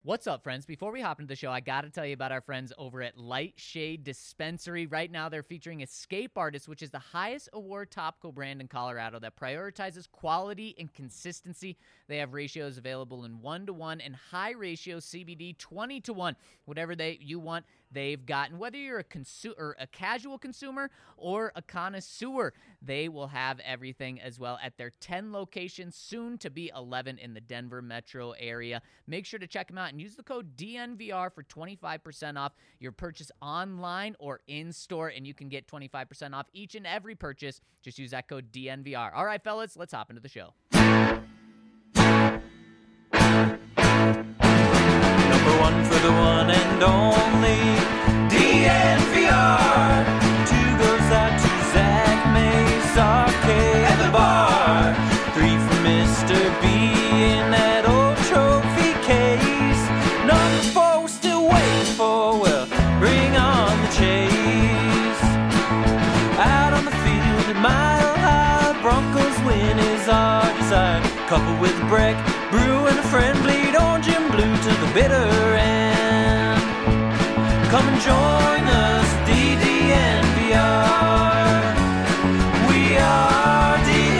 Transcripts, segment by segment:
What's up, friends? Before we hop into the show, I got to tell you about our friends over at Light Shade Dispensary. Right now, they're featuring Escape Artist, which is the highest award topical brand in Colorado that prioritizes quality and consistency. They have ratios available in 1-to-1 and high ratio CBD 20-to-1. Whatever you want, they've gotten. Whether you're a casual consumer or a connoisseur, they will have everything as well at their 10 locations, soon to be 11 in the Denver metro area. Make sure to check them out and use the code DNVR for 25% off your purchase online or in-store, and you can get 25% off each and every purchase. Just use that code DNVR. All right, fellas, let's hop into the show. Number one for the one and only DNVR. Two goes out to Zach Mace, Arcade, and the bar. Three for Mr. B in that old trophy case. Number four we're still waiting for, well, bring on the chase. Out on the field at Mile High, Broncos win is our desire. Couple with Breck, Brew, and a friend bleed orange and blue to the bitter end. Come and join us, DNVR. We are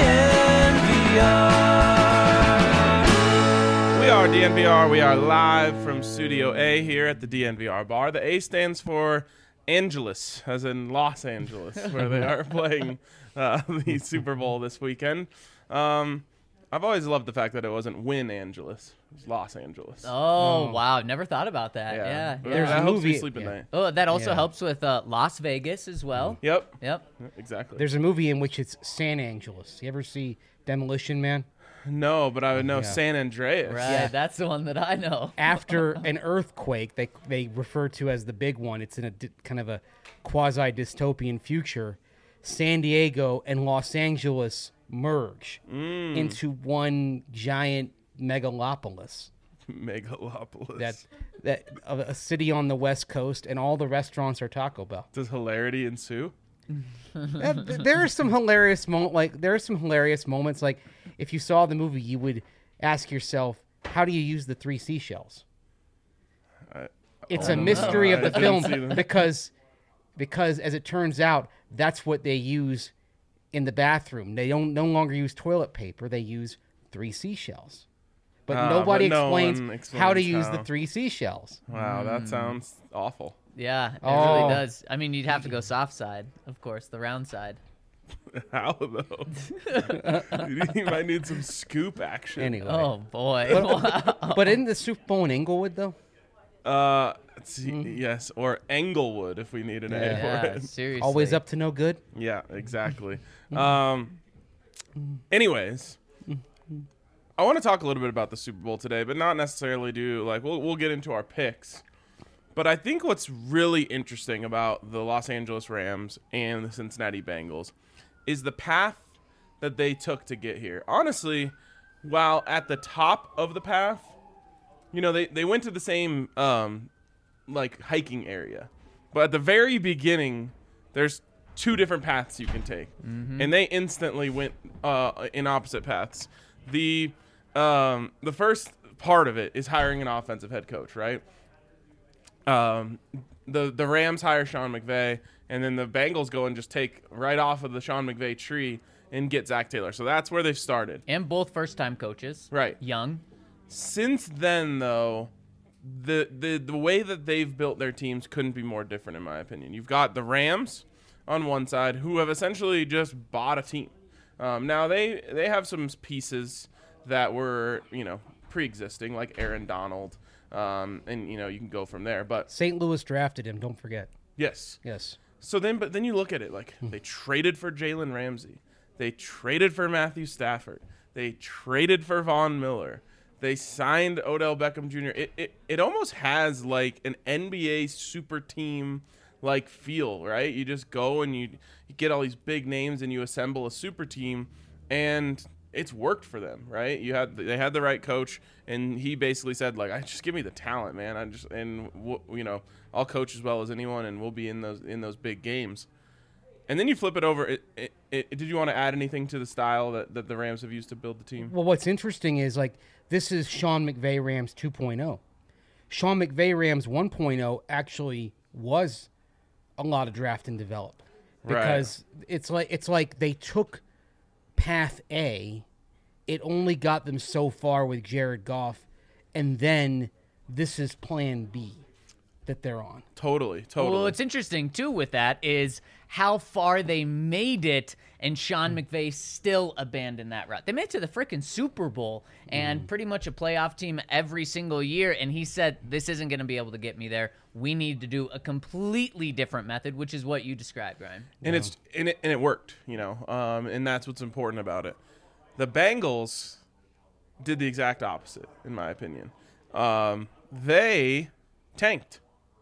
DNVR. We are DNVR. We are live from Studio A here at the DNVR bar. The A stands for Angeles, as in Los Angeles, where they are playing the Super Bowl this weekend. I've always loved the fact that it wasn't Win Angeles. It was Los Angeles. Oh, wow. Never thought about that. Yeah. There's that a helps movie- me sleep at night. Oh, that also Yeah. helps with Las Vegas as well. Yep. Yep. Exactly. There's a movie in which it's San Angeles. You ever see Demolition Man? No, but I would know Yeah. San Andreas. Right. Yeah. That's the one that I know. After an earthquake, they refer to as the big one. It's in a kind of a quasi-dystopian future. San Diego and Los Angeles merge into one giant megalopolis. Megalopolis. That a city on the West Coast, and all the restaurants are Taco Bell. Does hilarity ensue? There are some hilarious moments. Like if you saw the movie, you would ask yourself, "How do you use the 3 seashells?" It's a mystery of the I didn't see film them. because as it turns out, that's what they use in the bathroom. They don't no longer use toilet paper; they use 3 seashells. But nobody but no explains one how to explains use the how. 3 seashells. Wow, that sounds awful. Yeah, it Oh. really does. I mean, you'd have to go soft side, of course, the round side. How though? You might need some scoop action. Anyway, Oh, boy. but isn't the Super Bowl in Inglewood though? Let's see, yes, or Englewood if we need an A for Yeah, it. seriously. Always up to no good. Yeah, exactly. Anyways, I want to talk a little bit about the Super Bowl today, but not necessarily we'll get into our picks. But I think what's really interesting about the Los Angeles Rams and the Cincinnati Bengals is the path that they took to get here. Honestly, while at the top of the path, they went to the same hiking area. But at the very beginning, there's 2 different paths you can take. And they instantly went in opposite paths. The first part of it is hiring an offensive head coach, right? The Rams hire Sean McVay, and then the Bengals go and just take right off of the Sean McVay tree and get Zach Taylor. So that's where they've started. And both first-time coaches. Right. Young. Since then, though, the way that they've built their teams couldn't be more different, in my opinion. You've got the Rams on one side, who have essentially just bought a team. Now, they have some pieces that were, pre-existing, like Aaron Donald, and, you can go from there. But St. Louis drafted him. Don't forget. yes. Yes. So then you look at it, like they traded for Jalen Ramsey. They traded for Matthew Stafford. They traded for Von Miller. They signed Odell Beckham Jr. It almost has like an NBA super team like feel, right? You just go and you get all these big names and you assemble a super team, and it's worked for them, right? They had the right coach, and he basically said, like, just give me the talent, man. I'll coach as well as anyone, and we'll be in those big games. And then you flip it over. Did you want to add anything to the style that the Rams have used to build the team? Well, what's interesting is, like, this is Sean McVay Rams 2.0. Sean McVay Rams 1.0 actually was a lot of draft and develop, because it's like they took path A, it only got them so far with Jared Goff, and then this is plan B that they're on. Totally. Well, what's interesting, too, with that is how far they made it, and Sean McVay still abandoned that route. They made it to the freaking Super Bowl and pretty much a playoff team every single year, and he said, this isn't going to be able to get me there. We need to do a completely different method, which is what you described, Ryan. And it worked, and that's what's important about it. The Bengals did the exact opposite, in my opinion. They tanked.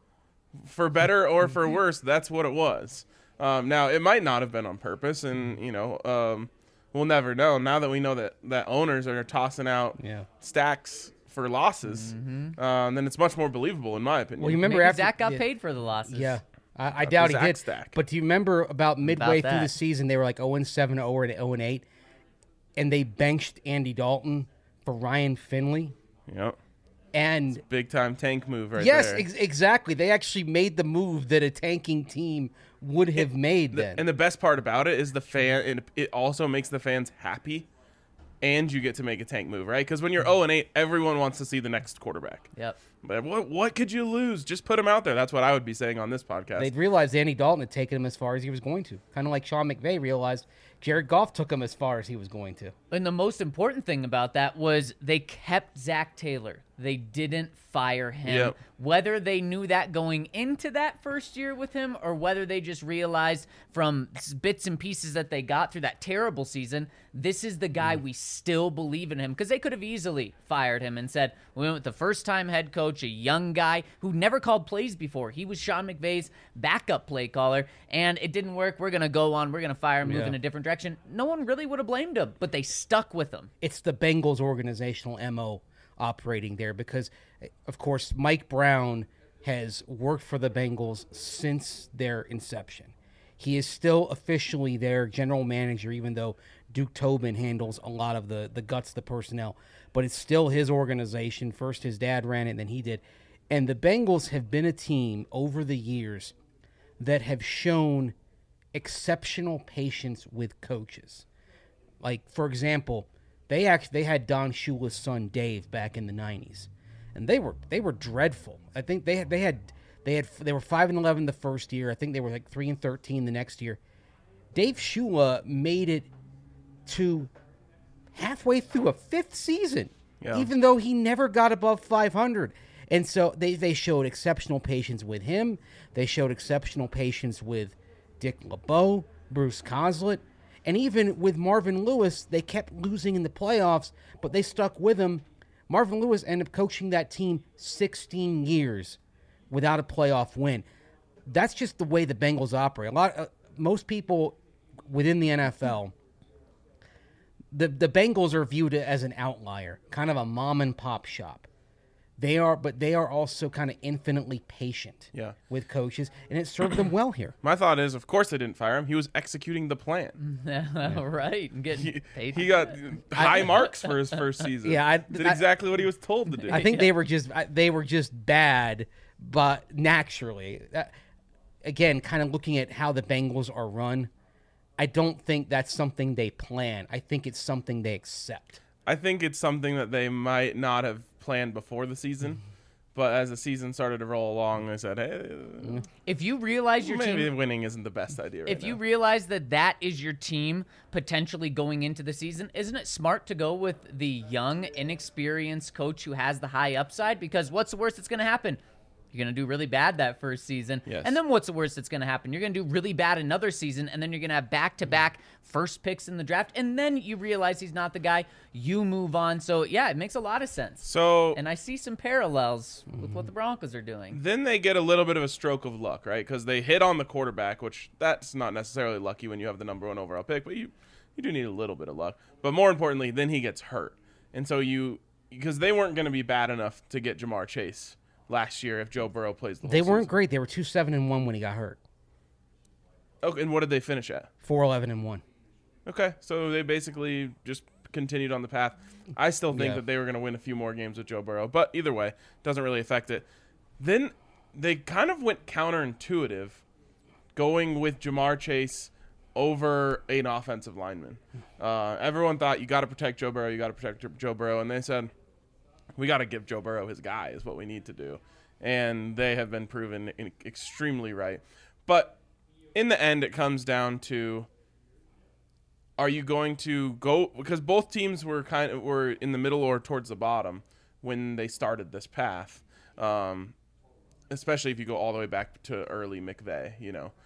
For better or for worse, that's what it was. Now, it might not have been on purpose, and, we'll never know. Now that we know that owners are tossing out stacks for losses, then it's much more believable, in my opinion. Well, you remember Maybe after Zach got paid for the losses. Yeah. I doubt he did. Stack. But do you remember about midway through that. the season, they were like 0-7, 0-8, and they benched Andy Dalton for Ryan Finley? Yep. And Big time tank move right yes, there. exactly. They actually made the move that a tanking team would have made then. And the best part about it is the fan, and it also makes the fans happy, and you get to make a tank move, right? Because when you're 0-8, everyone wants to see the next quarterback. Yep. But what could you lose? Just put him out there. That's what I would be saying on this podcast. They'd realized Andy Dalton had taken him as far as he was going to. Kind of like Sean McVay realized Jared Goff took him as far as he was going to. And the most important thing about that was they kept Zach Taylor. They didn't fire him. Yep. Whether they knew that going into that first year with him, or whether they just realized from bits and pieces that they got through that terrible season, this is the guy we still believe in him. Because they could have easily fired him and said, we went with the first-time head coach, a young guy who never called plays before. He was Sean McVay's backup play caller, and it didn't work. We're going to go on. We're going to fire him, move in a different direction. No one really would have blamed him, but they stuck with him. It's the Bengals organizational MO operating there because, of course, Mike Brown has worked for the Bengals since their inception. He is still officially their general manager, even though Duke Tobin handles a lot of the guts, the personnel. But it's still his organization. First his dad ran it, then he did. And the Bengals have been a team over the years that have shown exceptional patience with coaches. Like, for example, they had Don Shula's son Dave back in the 90s, and they were dreadful. I think they were 5-11 the first year. I think they were like 3-13 the next year. Dave Shula made it to halfway through a fifth season, even though he never got above 500. And so they showed exceptional patience with him. They showed exceptional patience with Dick LeBeau, Bruce Coslett. And even with Marvin Lewis, they kept losing in the playoffs, but they stuck with him. Marvin Lewis ended up coaching that team 16 years without a playoff win. That's just the way the Bengals operate. Most people within the NFL, the Bengals are viewed as an outlier, kind of a mom and pop shop. They are also kind of infinitely patient with coaches, and it served them well here. My thought is, of course they didn't fire him. He was executing the plan. Right. And getting paid. He got high marks for his first season. Did exactly what he was told to do. I think they were just bad, but naturally. Again, kind of looking at how the Bengals are run, I don't think that's something they plan. I think it's something they accept. I think it's something that they might not have planned before the season, but as the season started to roll along, they said, "Hey, if you realize your maybe team, winning isn't the best idea." If you realize that is your team potentially going into the season, isn't it smart to go with the young, inexperienced coach who has the high upside? Because what's the worst that's going to happen? You're going to do really bad that first season. Yes. And then what's the worst that's going to happen? You're going to do really bad another season, and then you're going to have back-to-back first picks in the draft, and then you realize he's not the guy. You move on. So, yeah, it makes a lot of sense. And I see some parallels with what the Broncos are doing. Then they get a little bit of a stroke of luck, right? Because they hit on the quarterback, which that's not necessarily lucky when you have the number 1 overall pick, but you do need a little bit of luck. But more importantly, then he gets hurt. And so because they weren't going to be bad enough to get Jamar Chase last year if Joe Burrow plays the whole season. They weren't great. They were 2-7-1 when he got hurt. Okay, and what did they finish at? 4-11-1. Okay, so they basically just continued on the path, I still think Yeah. that they were going to win a few more games with Joe Burrow. But either way, doesn't really affect it. Then they kind of went counterintuitive, going with Jamar Chase over an offensive lineman. Everyone thought you got to protect Joe Burrow, and they said we got to give Joe Burrow his guy is what we need to do, and they have been proven extremely right. But in the end, it comes down to: are you going to go, because both teams were in the middle or towards the bottom when they started this path, especially if you go all the way back to early McVay,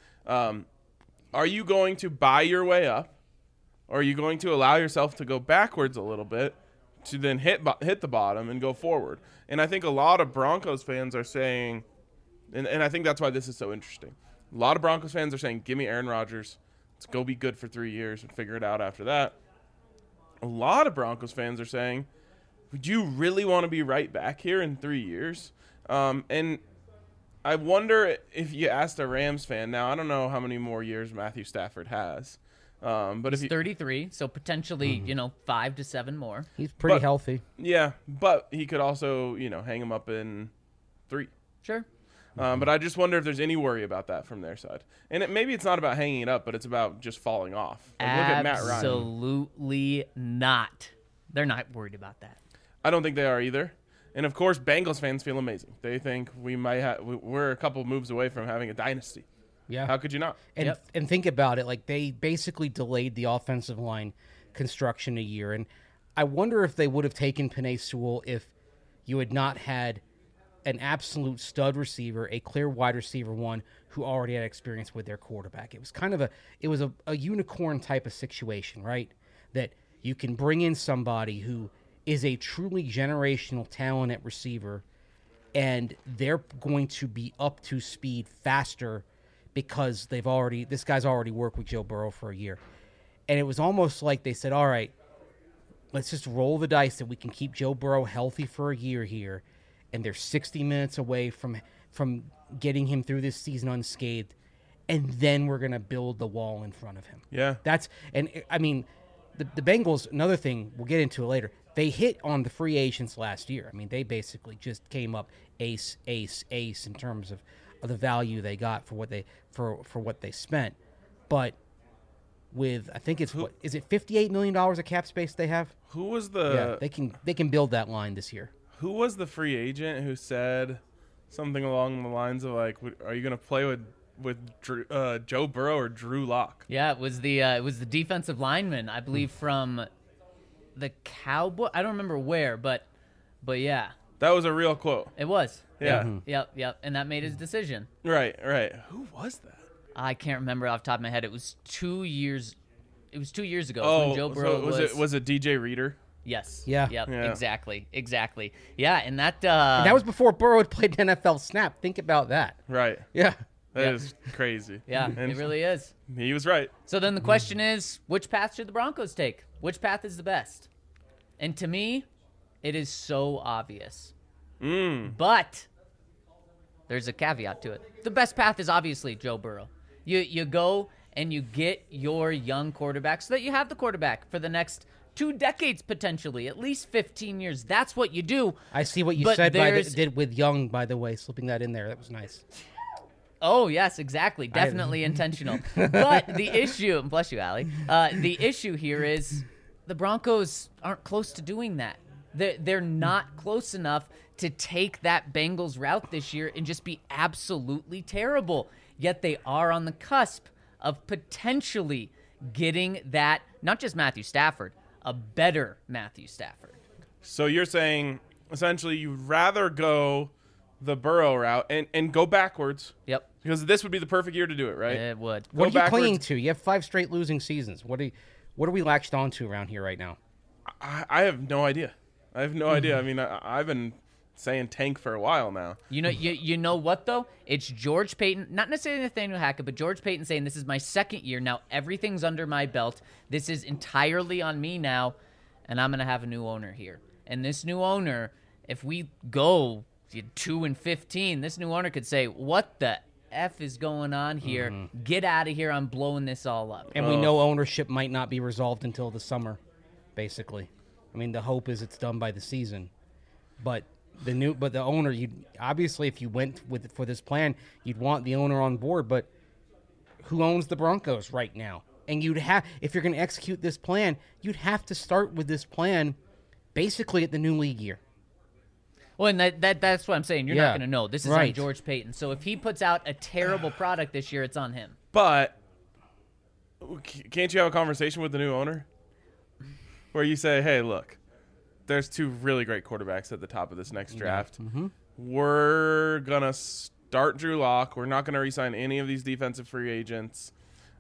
are you going to buy your way up, or are you going to allow yourself to go backwards a little bit to then hit the bottom and go forward? And I think a lot of Broncos fans are saying, and I think that's why this is so interesting, a lot of Broncos fans are saying, give me Aaron Rodgers. Let's go be good for 3 years and figure it out after that. A lot of Broncos fans are saying, would you really want to be right back here in 3 years? And I wonder if you asked a Rams fan, now I don't know how many more years Matthew Stafford has. But He's 33, so potentially, 5 to 7 more. He's pretty But- healthy. Yeah, but he could also, hang him up in 3. Sure. But I just wonder if there's any worry about that from their side. And maybe it's not about hanging it up, but it's about just falling off. Like, look at Matt Ryan. Absolutely not. They're not worried about that. I don't think they are either. And of course, Bengals fans feel amazing. They think we're a couple moves away from having a dynasty. Yeah. How could you not? And think about it, like they basically delayed the offensive line construction a year, and I wonder if they would have taken Penei Sewell if you had not had an absolute stud receiver, a clear wide receiver one who already had experience with their quarterback. It was kind of a unicorn type of situation, right? That you can bring in somebody who is a truly generational talent at receiver, and they're going to be up to speed faster because this guy's already worked with Joe Burrow for a year. And it was almost like they said, all right, let's just roll the dice that we can keep Joe Burrow healthy for a year here, and they're 60 minutes away from getting him through this season unscathed, and then we're going to build the wall in front of him. Yeah. The Bengals, another thing, we'll get into it later, they hit on the free agents last year. I mean, they basically just came up ace in terms of the value they got for what they spent. But with, I think is it $58 million of cap space they have? Who was the They can build that line this year. Who was the free agent who said something along the lines of like, are you going to play with Joe Burrow or Drew Lock? Yeah, it was the defensive lineman, I believe, from the Cowboy. I don't remember where, but yeah, That was a real quote. it was. Yeah. Yep, and that made his decision. Right. Who was that? I can't remember off the top of my head. It was 2 years. It was 2 years ago Oh, when Joe Burrow so was it DJ Reader? Yes. Yeah. Yep. Yeah. Exactly. Yeah, and that. And that was before Burrow had played an NFL snap. Think about that. Right. Yeah. That is crazy. Yeah, And it really is. He was right. So then the question is, which path should the Broncos take? Which path is the best? And to me, it is so obvious. But there's a caveat to it. The best path is obviously Joe Burrow. You go and you get your young quarterback so that you have the quarterback for the next 2 decades potentially, at least 15 years. That's what you do. I see what you But said there's- did with Young, by the way, slipping that in there. That was nice. Oh, yes, exactly. Definitely intentional. But the issue, bless you, Allie, the issue here is the Broncos aren't close to doing that. They're not close enough to take that Bengals route this year and just be absolutely terrible. Yet they are on the cusp of potentially getting that, not just Matthew Stafford, a better Matthew Stafford. So you're saying essentially you'd rather go the Burrow route and go backwards Yep, because this would be the perfect year to do it, right? it would. What Go are you clinging backwards. to? You have 5 straight losing seasons. What are we latched onto around here right now? I have no idea. I have no idea. I mean, I've been saying tank for a while now. You know what though? It's George Payton, not necessarily Nathaniel Hackett, but George Payton saying this is my second year now. Everything's under my belt. This is entirely on me now, and I'm gonna have a new owner here. And this new owner, if we go 2-15, this new owner could say, "What the F is going on here? Get out of here! I'm blowing this all up." And we know ownership might not be resolved until the summer basically. I mean, the hope is it's done by the season, but the owner, you obviously, if you went for this plan, you'd want the owner on board. But who owns the Broncos right now? And if you're going to execute this plan, you'd have to start with this plan basically at the new league year. Well, and that's what I'm saying. You're not going to know. This is right. on George Payton. So if he puts out a terrible product this year, it's on him. But can't you have a conversation with the new owner where you say, hey, look, there's 2 really great quarterbacks at the top of this next draft. Mm-hmm. We're going to start Drew Lock. We're not going to re-sign any of these defensive free agents.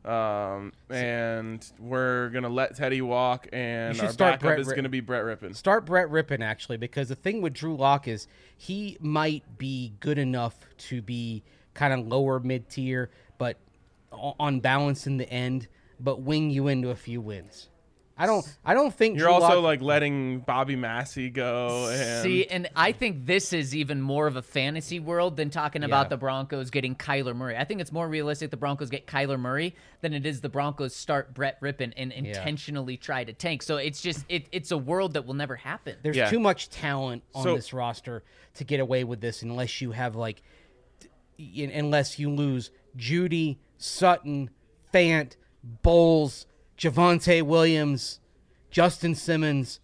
And we're going to let Teddy walk, and our backup is going to be Brett Rippon. Start Brett Rippon, actually, because the thing with Drew Lock is he might be good enough to be kind of lower mid-tier, but on balance in the end, but wing you into a few wins. I don't think you're Drew also Lock, letting Bobby Massey go. And I think this is even more of a fantasy world than talking about the Broncos getting Kyler Murray. I think it's more realistic the Broncos get Kyler Murray than it is the Broncos start Brett Rippon and intentionally try to tank. So it's just it's a world that will never happen. There's too much talent on this roster to get away with this unless you have unless you lose Judy, Sutton, Fant, Bowles, Javonte Williams, Justin Simmons,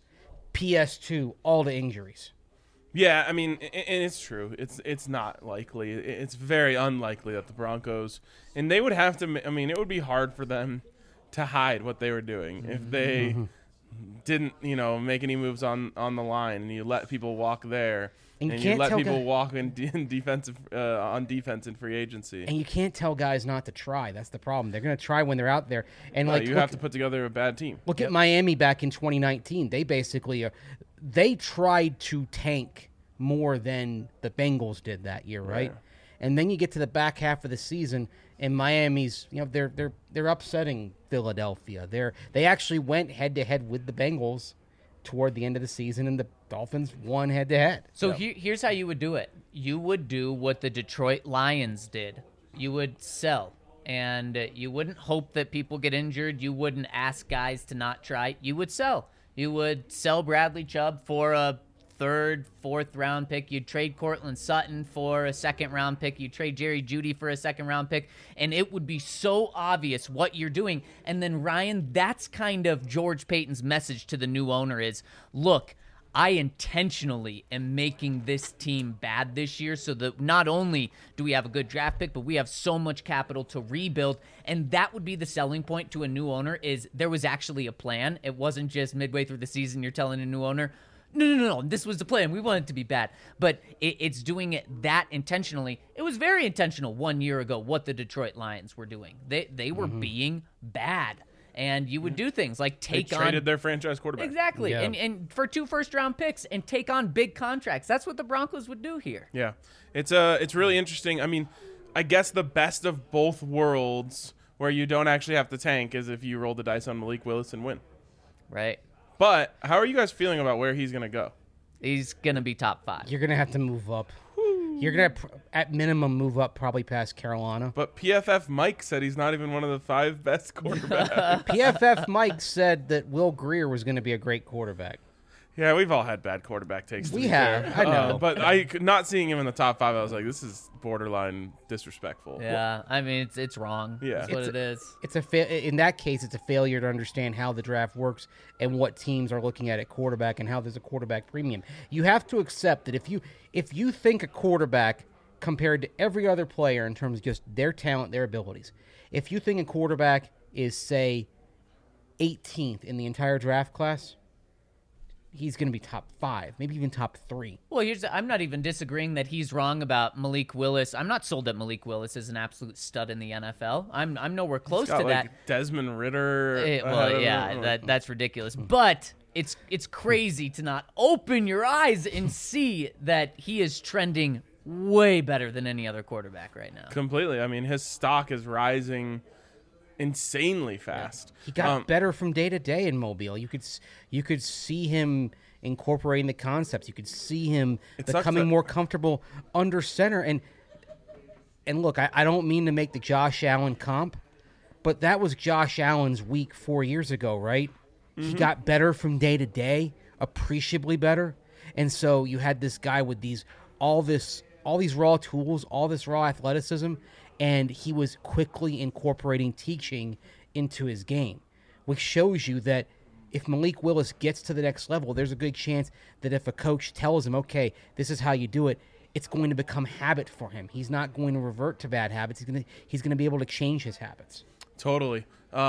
PS2, all the injuries. Yeah, I mean, and it's true. It's not likely. It's very unlikely that the Broncos, and they would have to. I mean, it would be hard for them to hide what they were doing if they didn't, make any moves on the line, and you let people walk there, and you let people walk in defensive on defense in free agency. And you can't tell guys not to try. That's the problem. They're going to try when they're out there, and you have to put together a bad team. Look at Miami back in 2019. They basically they tried to tank more than the Bengals did that year, right? Yeah. And then you get to the back half of the season, and Miami's, they're upsetting Philadelphia. They actually went head to head with the Bengals toward the end of the season, and the Dolphins won head to head. So here's how you would do it. You would do what the Detroit Lions did. You would sell, and you wouldn't hope that people get injured. You wouldn't ask guys to not try. You would sell. You would sell Bradley Chubb for a 3rd, 4th round pick. You'd trade Cortland Sutton for a 2nd round pick. You'd trade Jerry Jeudy for a 2nd round pick. And it would be so obvious what you're doing. And then, Ryan, that's kind of George Payton's message to the new owner is, look, I intentionally am making this team bad this year so that not only do we have a good draft pick, but we have so much capital to rebuild. And that would be the selling point to a new owner is there was actually a plan. It wasn't just midway through the season you're telling a new owner, no, this was the plan. We want it to be bad. But it's doing it that intentionally. It was very intentional 1 year ago what the Detroit Lions were doing. They were being bad. And you would do things like they traded their franchise quarterback. Exactly. Yeah. And for 2 first-round picks and take on big contracts. That's what the Broncos would do here. Yeah. It's really interesting. I mean, I guess the best of both worlds where you don't actually have to tank is if you roll the dice on Malik Willis and win. Right. But how are you guys feeling about where he's going to go? He's going to be top 5. You're going to have to move up. You're going to, at minimum, move up probably past Carolina. But PFF Mike said he's not even one of the 5 best quarterbacks. PFF Mike said that Will Grier was going to be a great quarterback. Yeah, we've all had bad quarterback takes. We have, I know. But not seeing him in the top 5, I was like, this is borderline disrespectful. Yeah, I mean, it's wrong. Yeah. That's what it is. It's in that case, it's a failure to understand how the draft works and what teams are looking at quarterback and how there's a quarterback premium. You have to accept that if you think a quarterback compared to every other player in terms of just their talent, their abilities, if you think a quarterback is, say, 18th in the entire draft class, he's going to be top 5, maybe even top 3. Well, I'm not even disagreeing that he's wrong about Malik Willis. I'm not sold that Malik Willis is an absolute stud in the NFL. I'm nowhere close to that. Desmond Ridder. That's ridiculous. But it's crazy to not open your eyes and see that he is trending way better than any other quarterback right now. Completely. I mean, his stock is rising insanely fast. He got better from day to day in Mobile. You could see him incorporating the concepts. You could see him becoming more comfortable under center. And look, I don't mean to make the Josh Allen comp, but that was Josh Allen's week 4 years ago, right? He got better from day to day, appreciably better. And so you had this guy with all these raw tools, all this raw athleticism, and he was quickly incorporating teaching into his game, which shows you that if Malik Willis gets to the next level, there's a good chance that if a coach tells him, okay, this is how you do it, it's going to become habit for him. He's not going to revert to bad habits. He's going to be able to change his habits. Totally.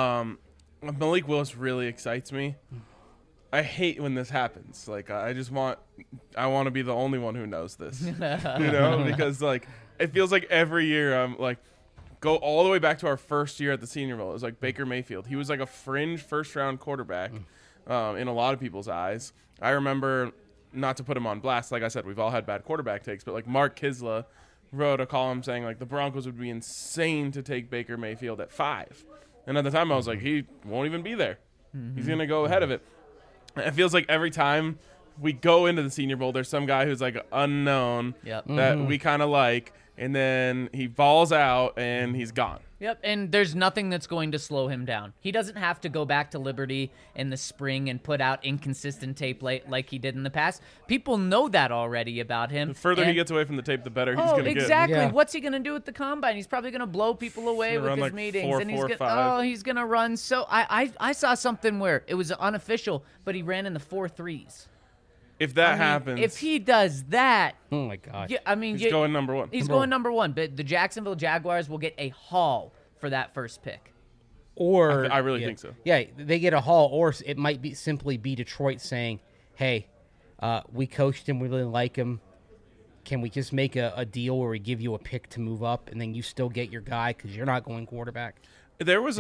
Malik Willis really excites me. I hate when this happens. Like, I want to be the only one who knows this, because like it feels like every year I'm like, go all the way back to our first year at the Senior Bowl. It was like Baker Mayfield. He was like a fringe first-round quarterback in a lot of people's eyes. I remember, not to put him on blast, like I said, we've all had bad quarterback takes, but like Mark Kisla wrote a column saying like the Broncos would be insane to take Baker Mayfield at 5. And at the time I was like, he won't even be there. He's going to go ahead of it. It feels like every time we go into the Senior Bowl, there's some guy who's like unknown that we kind of like, and then he balls out and he's gone. Yep, and there's nothing that's going to slow him down. He doesn't have to go back to Liberty in the spring and put out inconsistent tape like he did in the past. People know that already about him. The further he gets away from the tape, the better he's going to get. Exactly. Yeah. What's he going to do at the Combine? He's probably going to blow people away with his like meetings. 4, and 4, he's 5. he's going to run. So I saw something where it was unofficial, but he ran in the 4.3s. If that I mean, happens, if he does that, Oh, my gosh. yeah, I mean, he's going number 1. He's going number 1, but the Jacksonville Jaguars will get a haul for that first pick. Or I really think so. Yeah, they get a haul, or it might be simply be Detroit saying, hey, we coached him, we really like him. Can we just make a deal where we give you a pick to move up, and then you still get your guy because you're not going quarterback? There was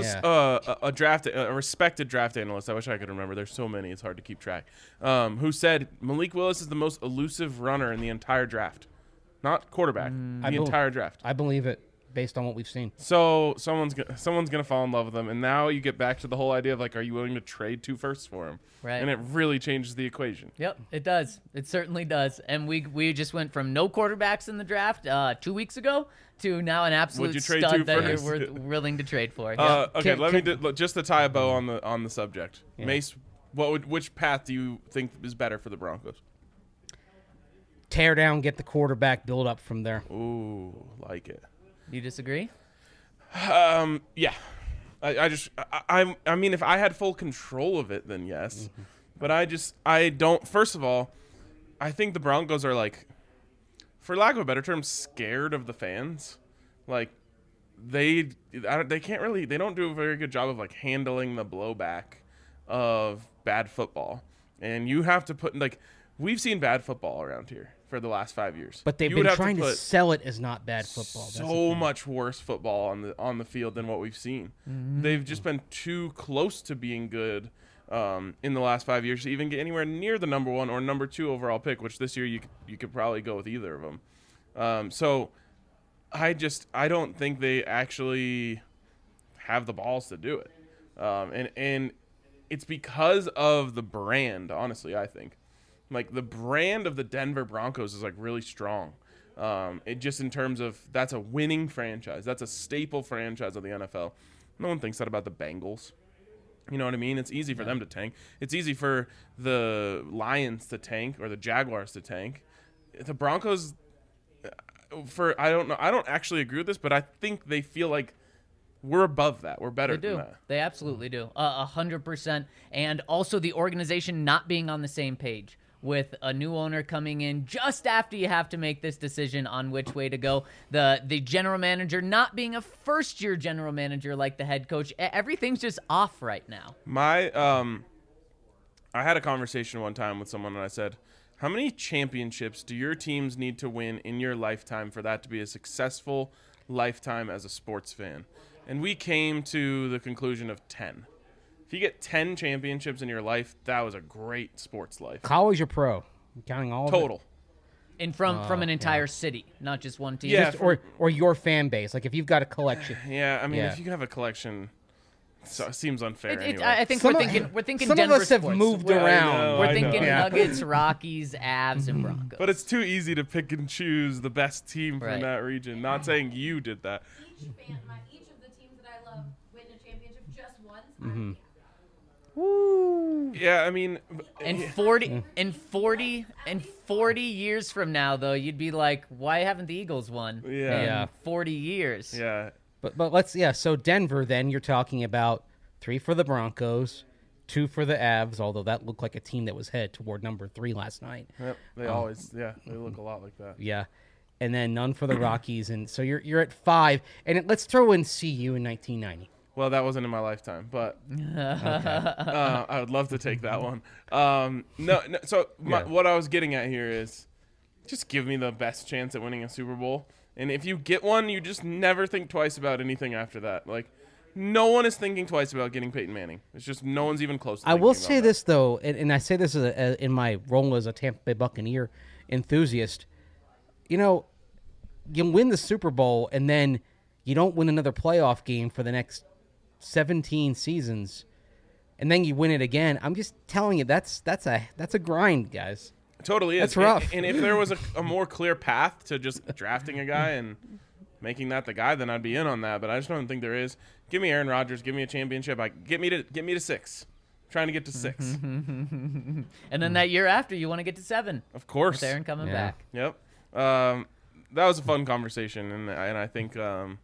a respected draft analyst, I wish I could remember, there's so many, it's hard to keep track, who said Malik Willis is the most elusive runner in the entire draft. Not quarterback, the entire draft. I believe it, based on what we've seen. So someone's gonna fall in love with him, and now you get back to the whole idea of like, are you willing to trade 2 firsts for him? Right. And it really changes the equation. Yep, it does. It certainly does. And we just went from no quarterbacks in the draft 2 weeks ago to now an absolute Would you trade stud 2 that firsts? you're willing to trade for. Yep. Okay, let me just to tie a bow on the subject. Yeah. Mace, which path do you think is better for the Broncos? Tear down, get the quarterback, build up from there. Ooh, like it. You disagree? Yeah. I mean, if I had full control of it, then yes. But I don't. First of all, I think the Broncos are like, for lack of a better term, scared of the fans. Like, they can't really, they don't do a very good job of like handling the blowback of bad football. And you have to put, like, we've seen bad football around here for the last 5 years. But they've been trying to sell it as not bad football. That's the So thing. much worse football on the field than what we've seen. They've just been too close to being good in the last 5 years to even get anywhere near the number 1 or number 2 overall pick, which this year you could probably go with either of them. So I don't think they actually have the balls to do it. And it's because of the brand, honestly, I think. Like, the brand of the Denver Broncos is, like, really strong. It just in terms of, that's a winning franchise. That's a staple franchise of the NFL. No one thinks that about the Bengals. You know what I mean? It's easy for them to tank. It's easy for the Lions to tank or the Jaguars to tank. The Broncos, I don't know. I don't actually agree with this, but I think they feel like we're above that. We're better They do. than that. They absolutely do. 100%. And also the organization not being on the same page, with a new owner coming in just after you have to make this decision on which way to go. The general manager not being a first-year general manager like the head coach. Everything's just off right now. I had a conversation one time with someone, and I said, how many championships do your teams need to win in your lifetime for that to be a successful lifetime as a sports fan? And we came to the conclusion of 10. If you get 10 championships in your life, that was a great sports life. College or pro? I'm counting all of it? Total. And from an entire city, not just one team. Yeah. Just, or your fan base. Like if you've got a collection. Yeah, I mean, Yeah. if you have a collection, it seems unfair anyway. I think Some we're of- thinking some Denver of us have sports. moved Well, I around. know. We're thinking Yeah. Nuggets, Rockies, Avs, and Broncos. But it's too easy to pick and choose the best team from Right. that region. Not saying you did that. Each of the teams that I love win a championship just once. Yeah, I mean, And 40 years from now, though, you'd be like, why haven't the Eagles won? Yeah. In Yeah. 40 years. yeah. But so Denver, then you're talking about 3 for the Broncos, 2 for the Avs, although that looked like a team that was headed toward number 3 last night. Yep, they always, they look a lot like that. Yeah. And then none for the Rockies. And so you're at 5. And let's throw in CU in 1990. Well, that wasn't in my lifetime, but I would love to take that one. No, so what I was getting at here is just give me the best chance at winning a Super Bowl. And if you get one, you just never think twice about anything after that. Like, no one is thinking twice about getting Peyton Manning. It's just no one's even close to I will thinking say about this, though, and I say this in my role as a Tampa Bay Buccaneer enthusiast. You know, you win the Super Bowl, and then you don't win another playoff game for the next 17 seasons, and then you win it again. I'm just telling you, that's a grind, guys. that. Totally is. That's rough. And if there was a more clear path to just drafting a guy and making that the guy, then I'd be in on that. But I just don't think there is. Give me Aaron Rodgers. Give me a championship. Get me to 6. I'm trying to get to 6. And then that year after, you want to get to 7. Of course. With Aaron coming Yeah. back. Yep. That was a fun conversation, and I think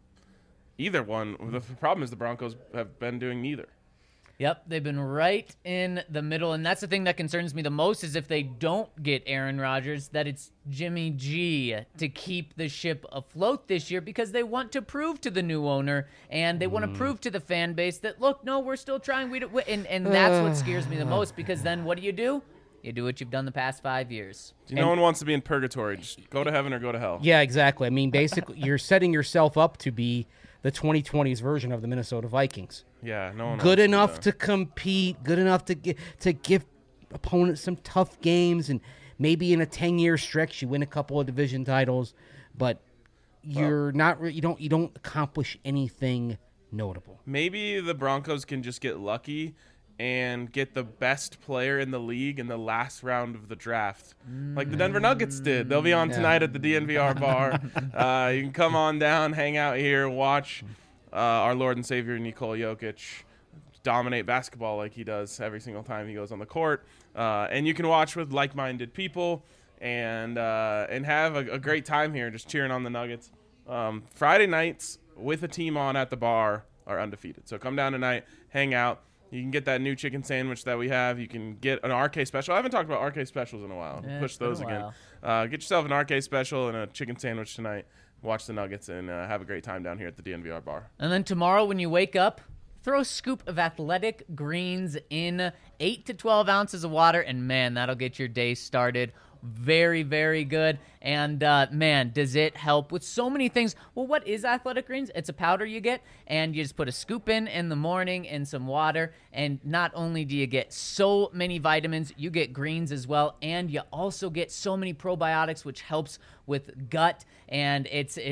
either one. The problem is the Broncos have been doing neither. Yep, they've been right in the middle, and that's the thing that concerns me the most is if they don't get Aaron Rodgers, that it's Jimmy G to keep the ship afloat this year because they want to prove to the new owner and they want to prove to the fan base that, look, no, we're still trying. And that's what scares me the most because then what do? You do what you've done the past 5 years. No one wants to be in purgatory. Just go to heaven or go to hell. Yeah, exactly. I mean, basically, you're setting yourself up to be the 2020s version of the Minnesota Vikings. Yeah, no one Good wants enough do to compete, good enough to give opponents some tough games, and maybe in a 10-year stretch you win a couple of division titles, but you don't accomplish anything notable. Maybe the Broncos can just get lucky and get the best player in the league in the last round of the draft, like the Denver Nuggets did. They'll be on tonight at the DNVR bar. You can come on down, hang out here, watch our Lord and Savior Nikola Jokic dominate basketball like he does every single time he goes on the court. And you can watch with like-minded people and have a great time here just cheering on the Nuggets. Friday nights with a team on at the bar are undefeated. So come down tonight, hang out. You can get that new chicken sandwich that we have. You can get an RK special. I haven't talked about RK specials in a while. Yeah, Push it's been those a again. while. Get yourself an RK special and a chicken sandwich tonight. Watch the Nuggets and have a great time down here at the DNVR bar. And then tomorrow when you wake up, throw a scoop of Athletic Greens in 8 to 12 ounces of water, and man, that'll get your day started. Very, very good. And man, does it help with so many things. Well, what is Athletic Greens? It's a powder you get, and you just put a scoop in the morning in some water. And not only do you get so many vitamins, you get greens as well, and you also get so many probiotics, which helps with gut. And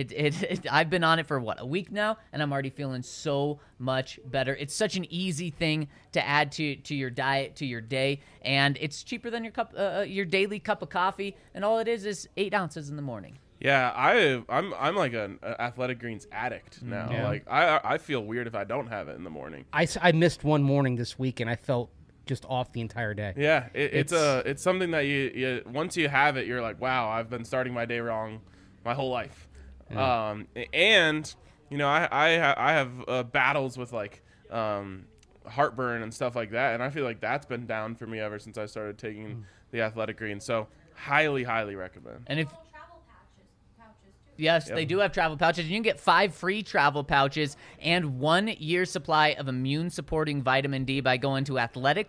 I've been on it for a week now, and I'm already feeling so much better. It's such an easy thing to add to your diet, to your day, and it's cheaper than your daily cup of coffee. And all it is 8 ounces in the morning. Yeah, I'm like an Athletic Greens addict now. Yeah. Like I feel weird if I don't have it in the morning. I missed one morning this week, and I felt just off the entire day. Yeah, it's something that you once you have it, you're like, wow, I've been starting my day wrong my whole life. Yeah. And you know, I have battles with like heartburn and stuff like that, and I feel like that's been down for me ever since I started taking the Athletic Greens. So highly recommend. And if Travel pouches too. yes, they do have travel pouches. You can get 5 free travel pouches and 1 year supply of immune-supporting vitamin D by going to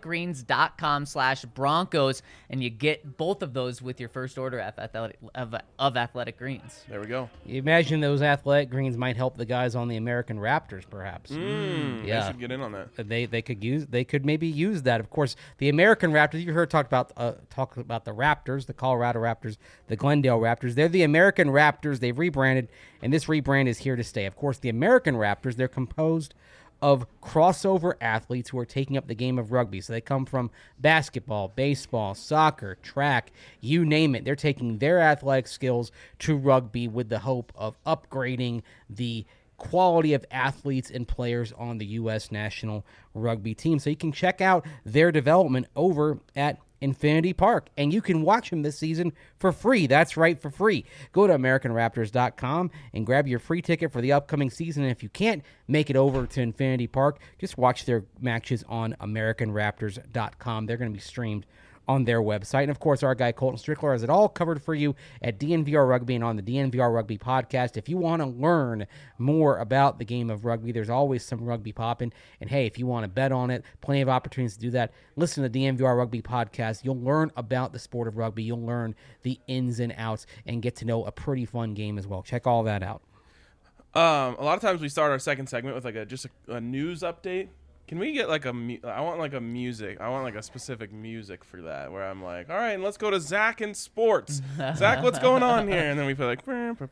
athleticgreens.com/Broncos, and you get both of those with your first order of Athletic Greens. There we go. You imagine those Athletic Greens might help the guys on the American Raptors, perhaps. I Yeah. should get in on that. They could maybe use that. Of course, the American Raptors. You heard talk about the Raptors, the Colorado Raptors, the Glendale Raptors. They're the American Raptors. They've rebranded, and this rebrand is here to stay. Of course, the American Raptors. They're composed of crossover athletes who are taking up the game of rugby. So they come from basketball, baseball, soccer, track, you name it. They're taking their athletic skills to rugby with the hope of upgrading the quality of athletes and players on the U.S. national rugby team. So you can check out their development over at Infinity Park, and you can watch them this season for free. That's right, for free. Go to AmericanRaptors.com and grab your free ticket for the upcoming season. And if you can't make it over to Infinity Park, just watch their matches on AmericanRaptors.com. They're going to be streamed on their website. And, of course, our guy Colton Strickler has it all covered for you at DNVR Rugby and on the DNVR Rugby podcast. If you want to learn more about the game of rugby, there's always some rugby popping. And, hey, if you want to bet on it, plenty of opportunities to do that. Listen to the DNVR Rugby podcast. You'll learn about the sport of rugby. You'll learn the ins and outs and get to know a pretty fun game as well. Check all that out. A lot of times we start our second segment with like a news update. Can we get like I want like a music. I want like a specific music for that where I'm like, all right, let's go to Zach in sports. Zach, what's going on here? And then we feel like,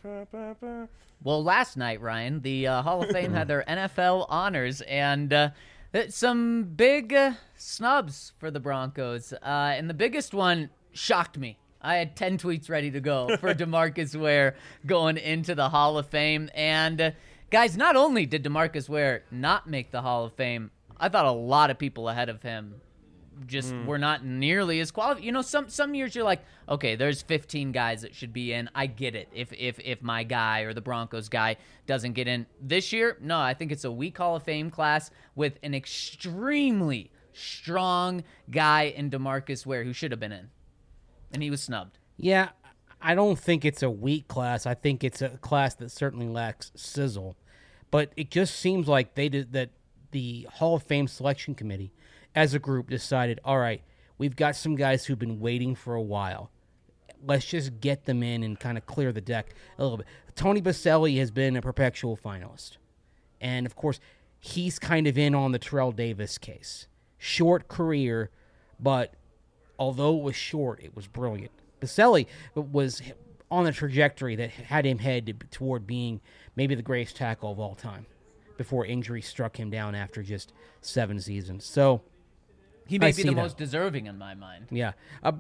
Well, last night, Ryan, the Hall of Fame had their NFL honors, and some big snubs for the Broncos. And the biggest one shocked me. I had 10 tweets ready to go for DeMarcus Ware going into the Hall of Fame. And, guys, not only did DeMarcus Ware not make the Hall of Fame, I thought a lot of people ahead of him just were not nearly as qualified. You know, some years you're like, okay, there's 15 guys that should be in. I get it if my guy or the Broncos guy doesn't get in. This year, no, I think it's a weak Hall of Fame class with an extremely strong guy in DeMarcus Ware who should have been in. And he was snubbed. Yeah, I don't think it's a weak class. I think it's a class that certainly lacks sizzle. But it just seems like that the Hall of Fame selection committee, as a group, decided, all right, we've got some guys who've been waiting for a while. Let's just get them in and kind of clear the deck a little bit. Tony Boselli has been a perpetual finalist. And, of course, he's kind of in on the Terrell Davis case. Short career, but although it was short, it was brilliant. Boselli was on a trajectory that had him head toward being maybe the greatest tackle of all time before injury struck him down after just 7 seasons. So he may be the most deserving in my mind. Yeah.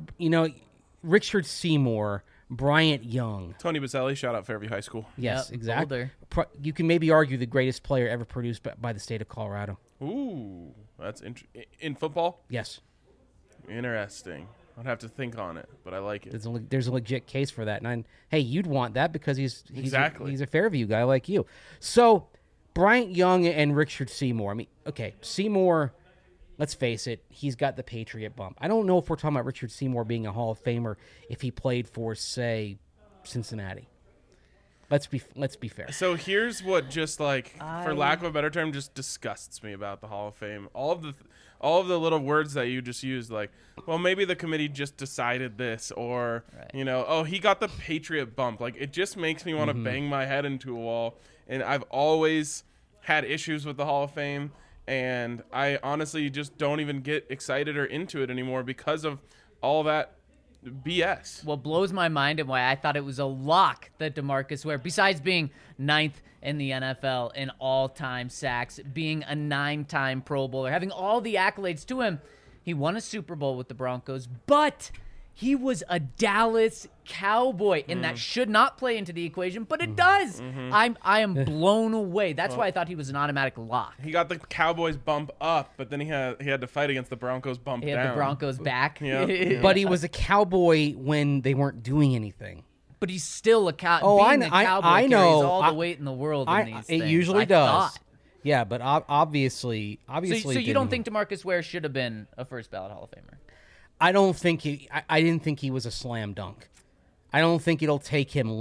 Richard Seymour, Bryant Young. Tony Boselli, shout out Fairview High School. Yes, Yep, exactly. You can maybe argue the greatest player ever produced by the state of Colorado. Ooh, that's interesting. In football? Yes. Interesting. I'd have to think on it, but I like it. There's a legit case for that. And hey, you'd want that because he's a Fairview guy like you. So Bryant Young and Richard Seymour. I mean, okay, Seymour, let's face it, he's got the Patriot bump. I don't know if we're talking about Richard Seymour being a Hall of Famer if he played for, say, Cincinnati. Let's be fair. So here's what just like, for lack of a better term, just disgusts me about the Hall of Fame. All of the little words that you just used, like, well, maybe the committee just decided this, or, right. He got the Patriot bump. Like, it just makes me want to bang my head into a wall. And I've always had issues with the Hall of Fame, and I honestly just don't even get excited or into it anymore because of all that BS. What blows my mind and why I thought it was a lock that DeMarcus Ware, besides being 9th in the NFL in all-time sacks, being a 9-time Pro Bowler, having all the accolades to him, he won a Super Bowl with the Broncos, but he was a Dallas Cowboy, and that should not play into the equation, but it does. I am blown away. That's why I thought he was an automatic lock. He got the Cowboys bump up, but then he had to fight against the Broncos bump down. He had the Broncos back. Yeah. But he was a Cowboy when they weren't doing anything. But he's still a Cowboy. Oh, I know. I know. Carries all the weight in the world in these things. It usually does. Thought. Yeah, but obviously. So you don't think DeMarcus Ware should have been a first ballot Hall of Famer? I don't think I didn't think he was a slam dunk. I don't think it'll take him.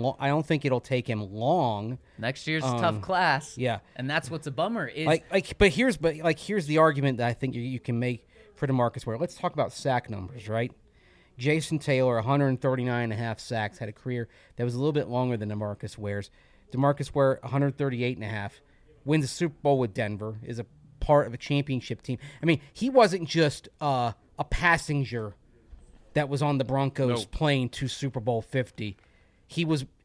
Long. Next year's a tough class. Yeah, and that's what's a bummer. Is But here's the argument that I think you can make for DeMarcus Ware. Let's talk about sack numbers, right? Jason Taylor, 139 and a half sacks, had a career that was a little bit longer than DeMarcus Ware's. DeMarcus Ware, 138 and a half, wins a Super Bowl with Denver, is a part of a championship team. I mean, he wasn't just a passenger that was on the Broncos plane to Super Bowl 50. He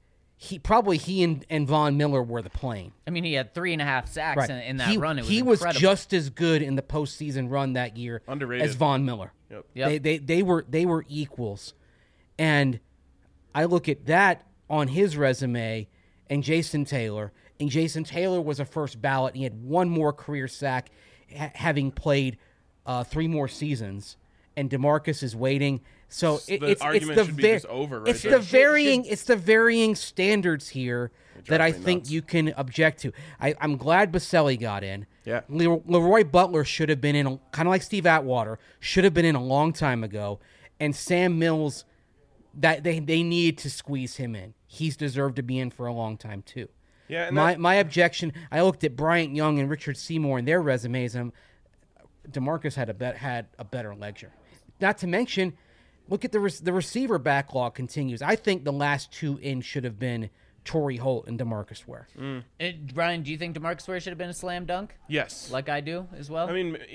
and Von Miller were the plane. I mean, he had 3.5 sacks Right. in that run. It was he incredible. was just as good in the postseason run that year Underrated. as Von Miller. Yep. They were equals, and I look at that on his resume, and Jason Taylor. And Jason Taylor was a first ballot. He had one more career sack, having played 3 more seasons. And DeMarcus is waiting. So it's argument the should be just over right it's there. the varying standards here that I drives me think nuts. you can object to. I'm glad Baselli got in. Yeah. Leroy Butler should have been in, kind of like Steve Atwater, should have been in a long time ago. And Sam Mills, that they needed to squeeze him in. He's deserved to be in for a long time too. Yeah, and My objection, I looked at Bryant Young and Richard Seymour and their resumes, and DeMarcus had a better lecture. Not to mention, look at the receiver backlog continues. I think the last 2 in should have been Torrey Holt and DeMarcus Ware. Brian, do you think DeMarcus Ware should have been a slam dunk? yes. Like I do as well? I mean,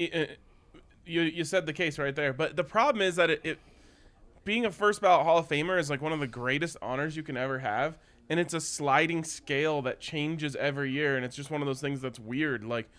you said the case right there. But the problem is that it being a first ballot Hall of Famer is like one of the greatest honors you can ever have. And it's a sliding scale that changes every year. And it's just one of those things that's weird. Like,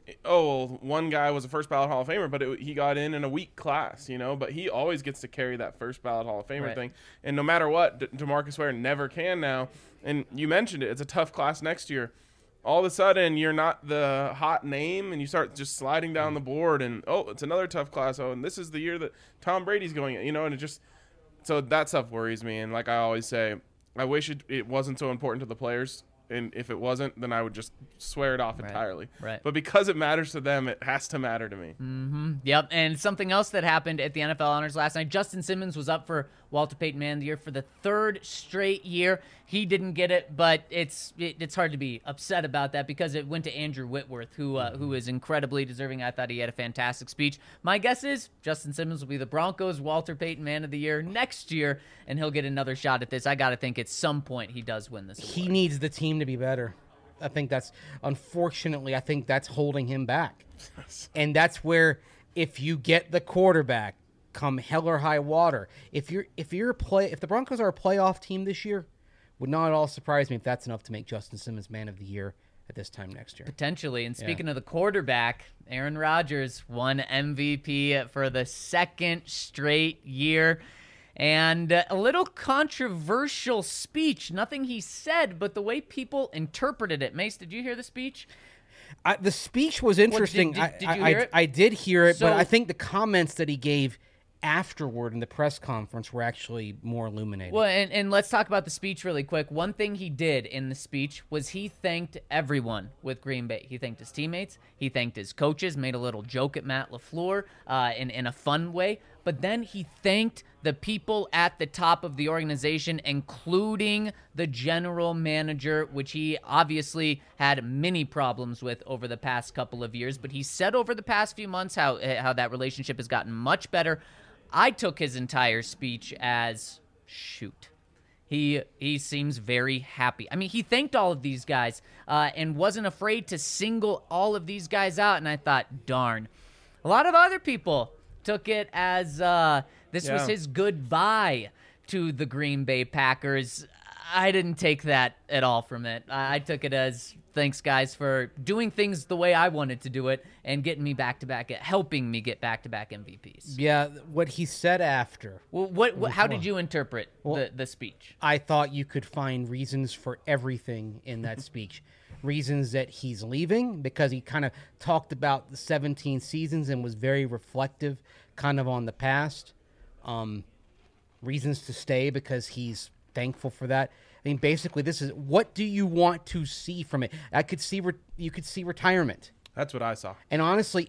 oh, one guy was a first ballot Hall of Famer, but he got in a weak class, but he always gets to carry that first ballot Hall of Famer Right. thing. And no matter what, DeMarcus Ware never can now. And you mentioned it. It's a tough class next year. All of a sudden, you're not the hot name, and you start just sliding down the board, and, oh, it's another tough class. Oh, and this is the year that Tom Brady's going, and it just – so that stuff worries me. And like I always say, I wish it wasn't so important to the players. And if it wasn't, then I would just swear it off entirely. Right. But because it matters to them, it has to matter to me. Yep, and something else that happened at the NFL Honors last night, Justin Simmons was up for Walter Payton Man of the Year for the 3rd straight year. He didn't get it, but it's hard to be upset about that because it went to Andrew Whitworth, who is incredibly deserving. I thought he had a fantastic speech. My guess is Justin Simmons will be the Broncos' Walter Payton Man of the Year next year, and he'll get another shot at this. I got to think at some point he does win this award. He needs the team to be better. I think that's, unfortunately, that's holding him back. And that's where, if you get the quarterback, come hell or high water, if the Broncos are a playoff team this year, would not at all surprise me if that's enough to make Justin Simmons Man of the Year at this time next year. Potentially. And speaking of the quarterback, Aaron Rodgers won MVP for the 2nd straight year. And a little controversial speech. Nothing he said, but the way people interpreted it. Mace, did you hear the speech? The speech was interesting. did you hear it? I did hear it, So- but I think the comments that he gave afterward in the press conference were actually more illuminating. Well, and let's talk about the speech really quick. One thing he did in the speech was he thanked everyone with Green Bay. He thanked his teammates. He thanked his coaches, made a little joke at Matt LaFleur in a fun way. But then he thanked the people at the top of the organization, including the general manager, which he obviously had many problems with over the past couple of years. But he said over the past few months how that relationship has gotten much better. I took his entire speech as, shoot, he seems very happy. I mean, he thanked all of these guys and wasn't afraid to single all of these guys out. And I thought, darn. A lot of other people took it as this was his goodbye to the Green Bay Packers. I didn't take that at all from it. I took it as, thanks, guys, for doing things the way I wanted to do it and getting me back-to-back, helping me get back-to-back MVPs. Yeah, what he said after. Well, how did you interpret the speech? I thought you could find reasons for everything in that speech. Reasons that he's leaving because he kind of talked about the 17 seasons and was very reflective kind of on the past. Reasons to stay because he's thankful for that. I mean, basically, this is, what do you want to see from it? You could see retirement. That's what I saw. And honestly,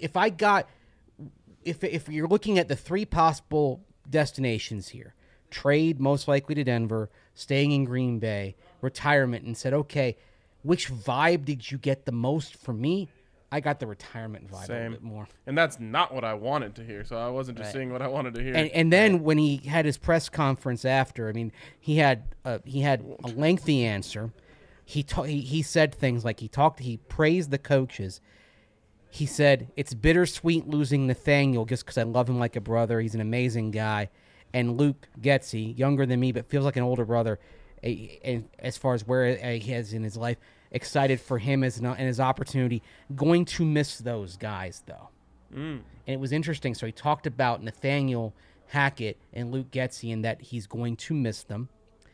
if you're looking at the 3 possible destinations here, trade most likely to Denver, staying in Green Bay, retirement, and said, okay, which vibe did you get the most from me? I got the retirement vibe a little bit more. And that's not what I wanted to hear, so I wasn't just saying what I wanted to hear. And then when he had his press conference after, I mean, he had a lengthy answer. He said things like he praised the coaches. He said, it's bittersweet losing Nathaniel just because I love him like a brother. He's an amazing guy. And Luke Getsy, younger than me but feels like an older brother, and as far as where he is in his life, excited for him and his opportunity. Going to miss those guys, though. And it was interesting. So he talked about Nathaniel Hackett and Luke Getsy and that he's going to miss them.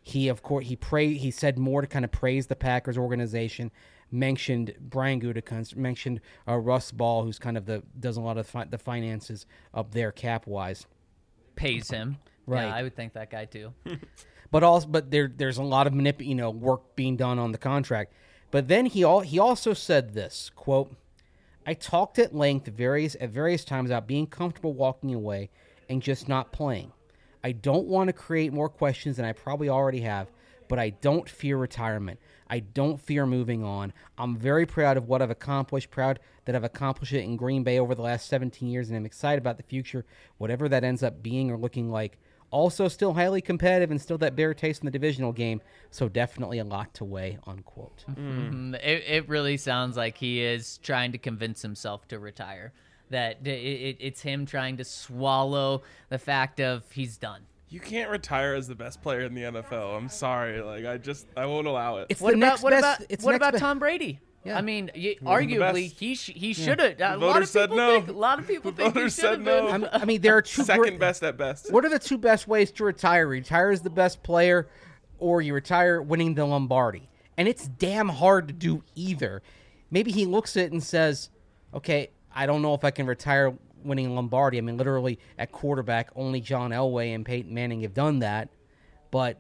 He said more to kind of praise the Packers organization. Mentioned Brian Gutekunst, mentioned Russ Ball, who's kind of does a lot of the finances up there cap wise. Pays him. Right. Yeah, I would think that guy too. But there's a lot of work being done on the contract. But then he also said this quote: "I talked at length at various times about being comfortable walking away and just not playing. I don't want to create more questions than I probably already have, but I don't fear retirement. I don't fear moving on. I'm very proud of what I've accomplished, proud that I've accomplished it in Green Bay over the last 17 years, and I'm excited about the future, whatever that ends up being or looking like. Also still highly competitive and still that bitter taste in the divisional game, so definitely a lot to weigh," unquote. It really sounds like he is trying to convince himself to retire. That it's him trying to swallow the fact of he's done. You can't retire as the best player in the NFL. I'm sorry. Like, I won't allow it. What about Tom Brady? Yeah. I mean, the arguably, best. he should have. A voters said no. A lot of people think he voters should said have no. been. I mean, there are two Second best at best. What are the two best ways to retire? Retire as the best player, or you retire winning the Lombardi. And it's damn hard to do either. Maybe he looks at it and says, okay, I don't know if I can retire winning Lombardi. I mean, literally at quarterback, only John Elway and Peyton Manning have done that. But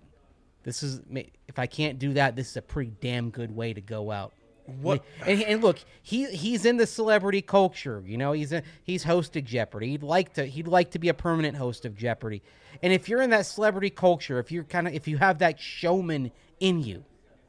if I can't do that, this is a pretty damn good way to go out. What? And look, he's in the celebrity culture. You know, he's hosted Jeopardy. He'd like to be a permanent host of Jeopardy. And if you're in that celebrity culture, if you have that showman in you,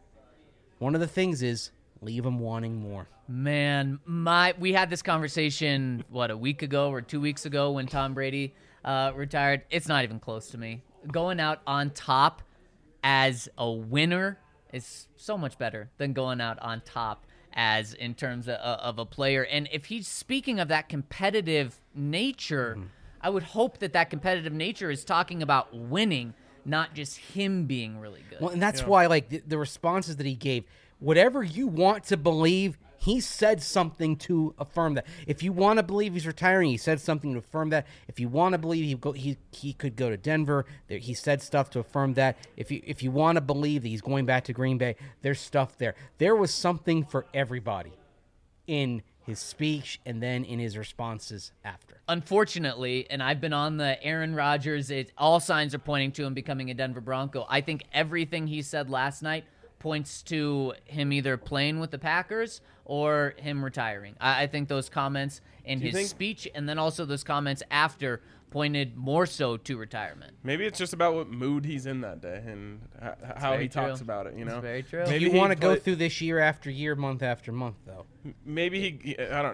one of the things is leave them wanting more. Man, we had this conversation a week ago or 2 weeks ago when Tom Brady retired. It's not even close to me. Going out on top as a winner is so much better than going out on top as in terms of a player. And if he's speaking of that competitive nature, I would hope that competitive nature is talking about winning, not just him being really good. Well, and that's why, like, the responses that he gave, whatever you want to believe, he said something to affirm that. If you want to believe he's retiring, he said something to affirm that. If you want to believe he could go to Denver, he said stuff to affirm that. If you want to believe that he's going back to Green Bay, there's stuff there. There was something for everybody in his speech and then in his responses after. Unfortunately, and I've been on the Aaron Rodgers, all signs are pointing to him becoming a Denver Bronco. I think everything he said last night points to him either playing with the Packers or him retiring. I think those comments in his speech and then also those comments after pointed more so to retirement. Maybe it's just about what mood he's in that day and how he talks about it, That's very true. Maybe you want to go through this year after year, month after month, though. Maybe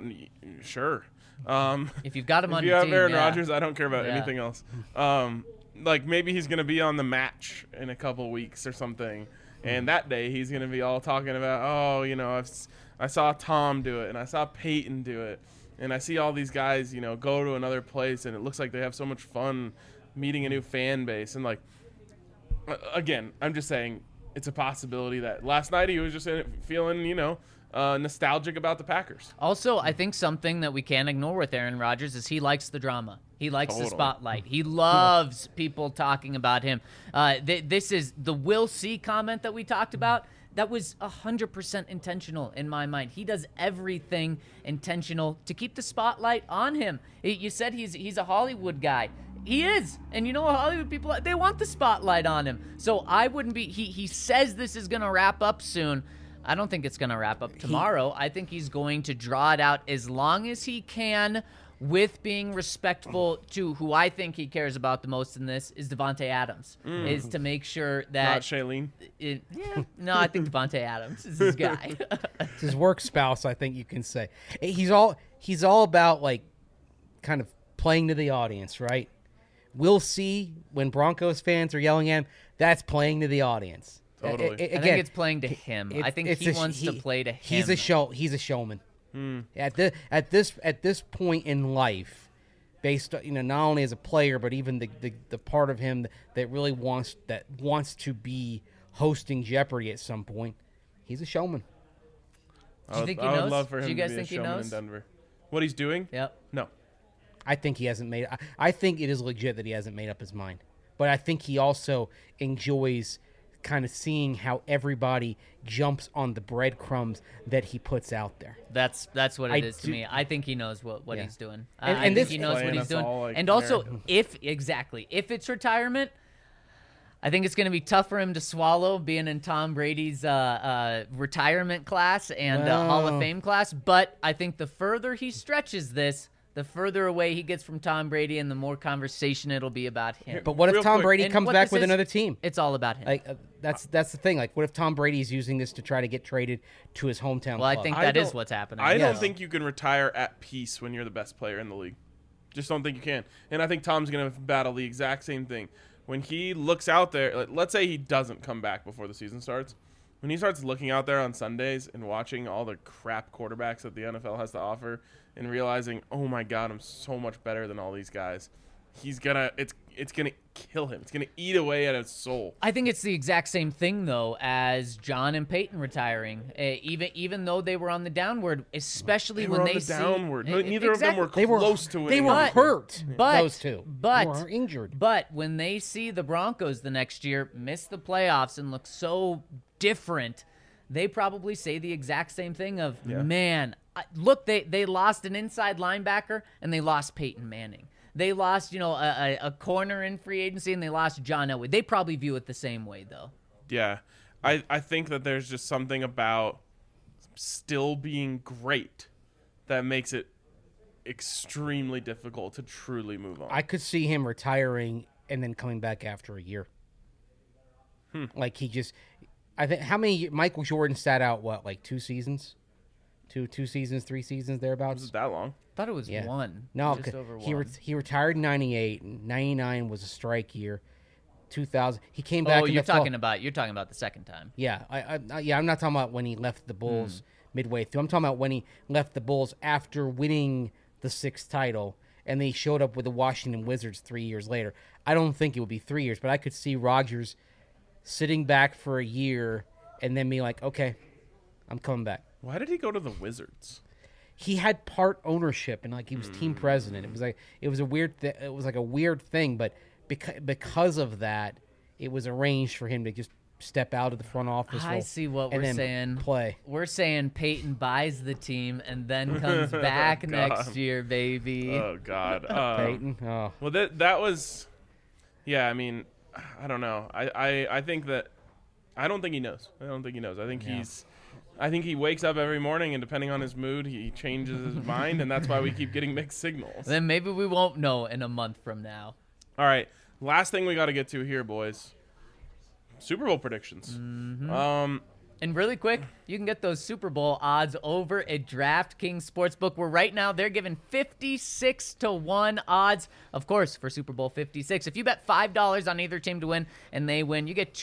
sure. If you've got him on if your you have team, Aaron Rodgers, I don't care about Yeah. anything else. Like maybe he's going to be on the match in a couple weeks or something. And that day he's going to be all talking about, I saw Tom do it and I saw Peyton do it. And I see all these guys, go to another place and it looks like they have so much fun meeting a new fan base. And like, again, I'm just saying it's a possibility that last night he was just feeling, nostalgic about the Packers. Also, I think something that we can't ignore with Aaron Rodgers is he likes the drama. He likes the spotlight. He loves people talking about him. This is the "we'll see" comment that we talked about. That was 100% intentional in my mind. He does everything intentional to keep the spotlight on him. You said he's a Hollywood guy. He is. And Hollywood people, they want the spotlight on him. So I wouldn't be, he says this is going to wrap up soon. I don't think it's going to wrap up tomorrow. I think he's going to draw it out as long as he can with being respectful to who I think he cares about the most in this is Devontae Adams, is to make sure that... Not Shailene? No, I think Devontae Adams is his guy. It's his work spouse, I think you can say. He's all about, like, kind of playing to the audience, right? We'll see when Broncos fans are yelling at him, that's playing to the audience. Totally. I think it's playing to him. I think he wants to play to him. He's a showman. At this point in life, based on, not only as a player but even the part of him that really wants to be hosting Jeopardy at some point, he's a showman. Do you think he I knows? would love for him Do you guys to be a think he showman knows? in Denver. What he's doing? Yep. No. I think he hasn't made. I think it is legit that he hasn't made up his mind, but I think he also enjoys kind of seeing how everybody jumps on the breadcrumbs that he puts out there. That's what it is to me. I think he knows what Yeah. he's doing. And I think this- he knows what Playing he's us doing. all like And also, Americans. if it's retirement, I think it's going to be tough for him to swallow being in Tom Brady's retirement class and Hall of Wow. Fame class. But I think the further he stretches this, the further away he gets from Tom Brady and the more conversation it'll be about him. But what if Real Tom quick, Brady and comes what back this with is- another team? It's all about him. Like that's the thing. Like, what if Tom Brady's using this to try to get traded to his hometown well, I club? think I that is don't- what's happening. I Yeah. don't think you can retire at peace when you're the best player in the league. Just don't think you can. And I think Tom's going to battle the exact same thing. When he looks out there, like, let's say he doesn't come back before the season starts. When he starts looking out there on Sundays and watching all the crap quarterbacks that the NFL has to offer and realizing, oh my God, I'm so much better than all these guys, it's gonna kill him. It's gonna eat away at his soul. I think it's the exact same thing though as John and Peyton retiring. Even though they were on the downward, especially They when were on they the see downward. E- Neither of them were exactly. close to it. They were But- hurt. but- those two, but- were injured. But when they see the Broncos the next year miss the playoffs and look so different, they probably say the exact same thing of, man, look, they lost an inside linebacker and they lost Peyton Manning. They lost, a corner in free agency and they lost John Elway. They probably view it the same way, though. Yeah. I think that there's just something about still being great that makes it extremely difficult to truly move on. I could see him retiring and then coming back after a year. Like I think how many Michael Jordan sat out like 2 seasons, 2 seasons, 3 seasons thereabouts. Was it that long? Thought it was Yeah. one. No, just 'cause over he one. he retired in 98. 99 was a strike year. 2000 he came back. Oh, in you're the fall. talking about the second time. Yeah, I'm not talking about when he left the Bulls midway through. I'm talking about when he left the Bulls after winning the 6th title, and they showed up with the Washington Wizards 3 years later. I don't think it would be 3 years, but I could see Rodgers sitting back for a year and then being like, okay, I'm coming back. Why did he go to the Wizards? He had part ownership and like he was team president. It was a weird it was like a weird thing, but because of that, it was arranged for him to just step out of the front office. I role see what and we're then saying. Play. We're saying Peyton buys the team and then comes back next year, baby. Oh God. Peyton. Oh. Well, that was, yeah. I mean, I don't know. I think that I don't think he knows. I think he wakes up every morning and depending on his mood, he changes his mind, and that's why we keep getting mixed signals. Then maybe we won't know in a month from now. All right, last thing we got to get to here, boys. Super Bowl predictions. And really quick, you can get those Super Bowl odds over at DraftKings Sportsbook, where right now they're giving 56-1 odds, of course, for Super Bowl 56. If you bet $5 on either team to win and they win, you get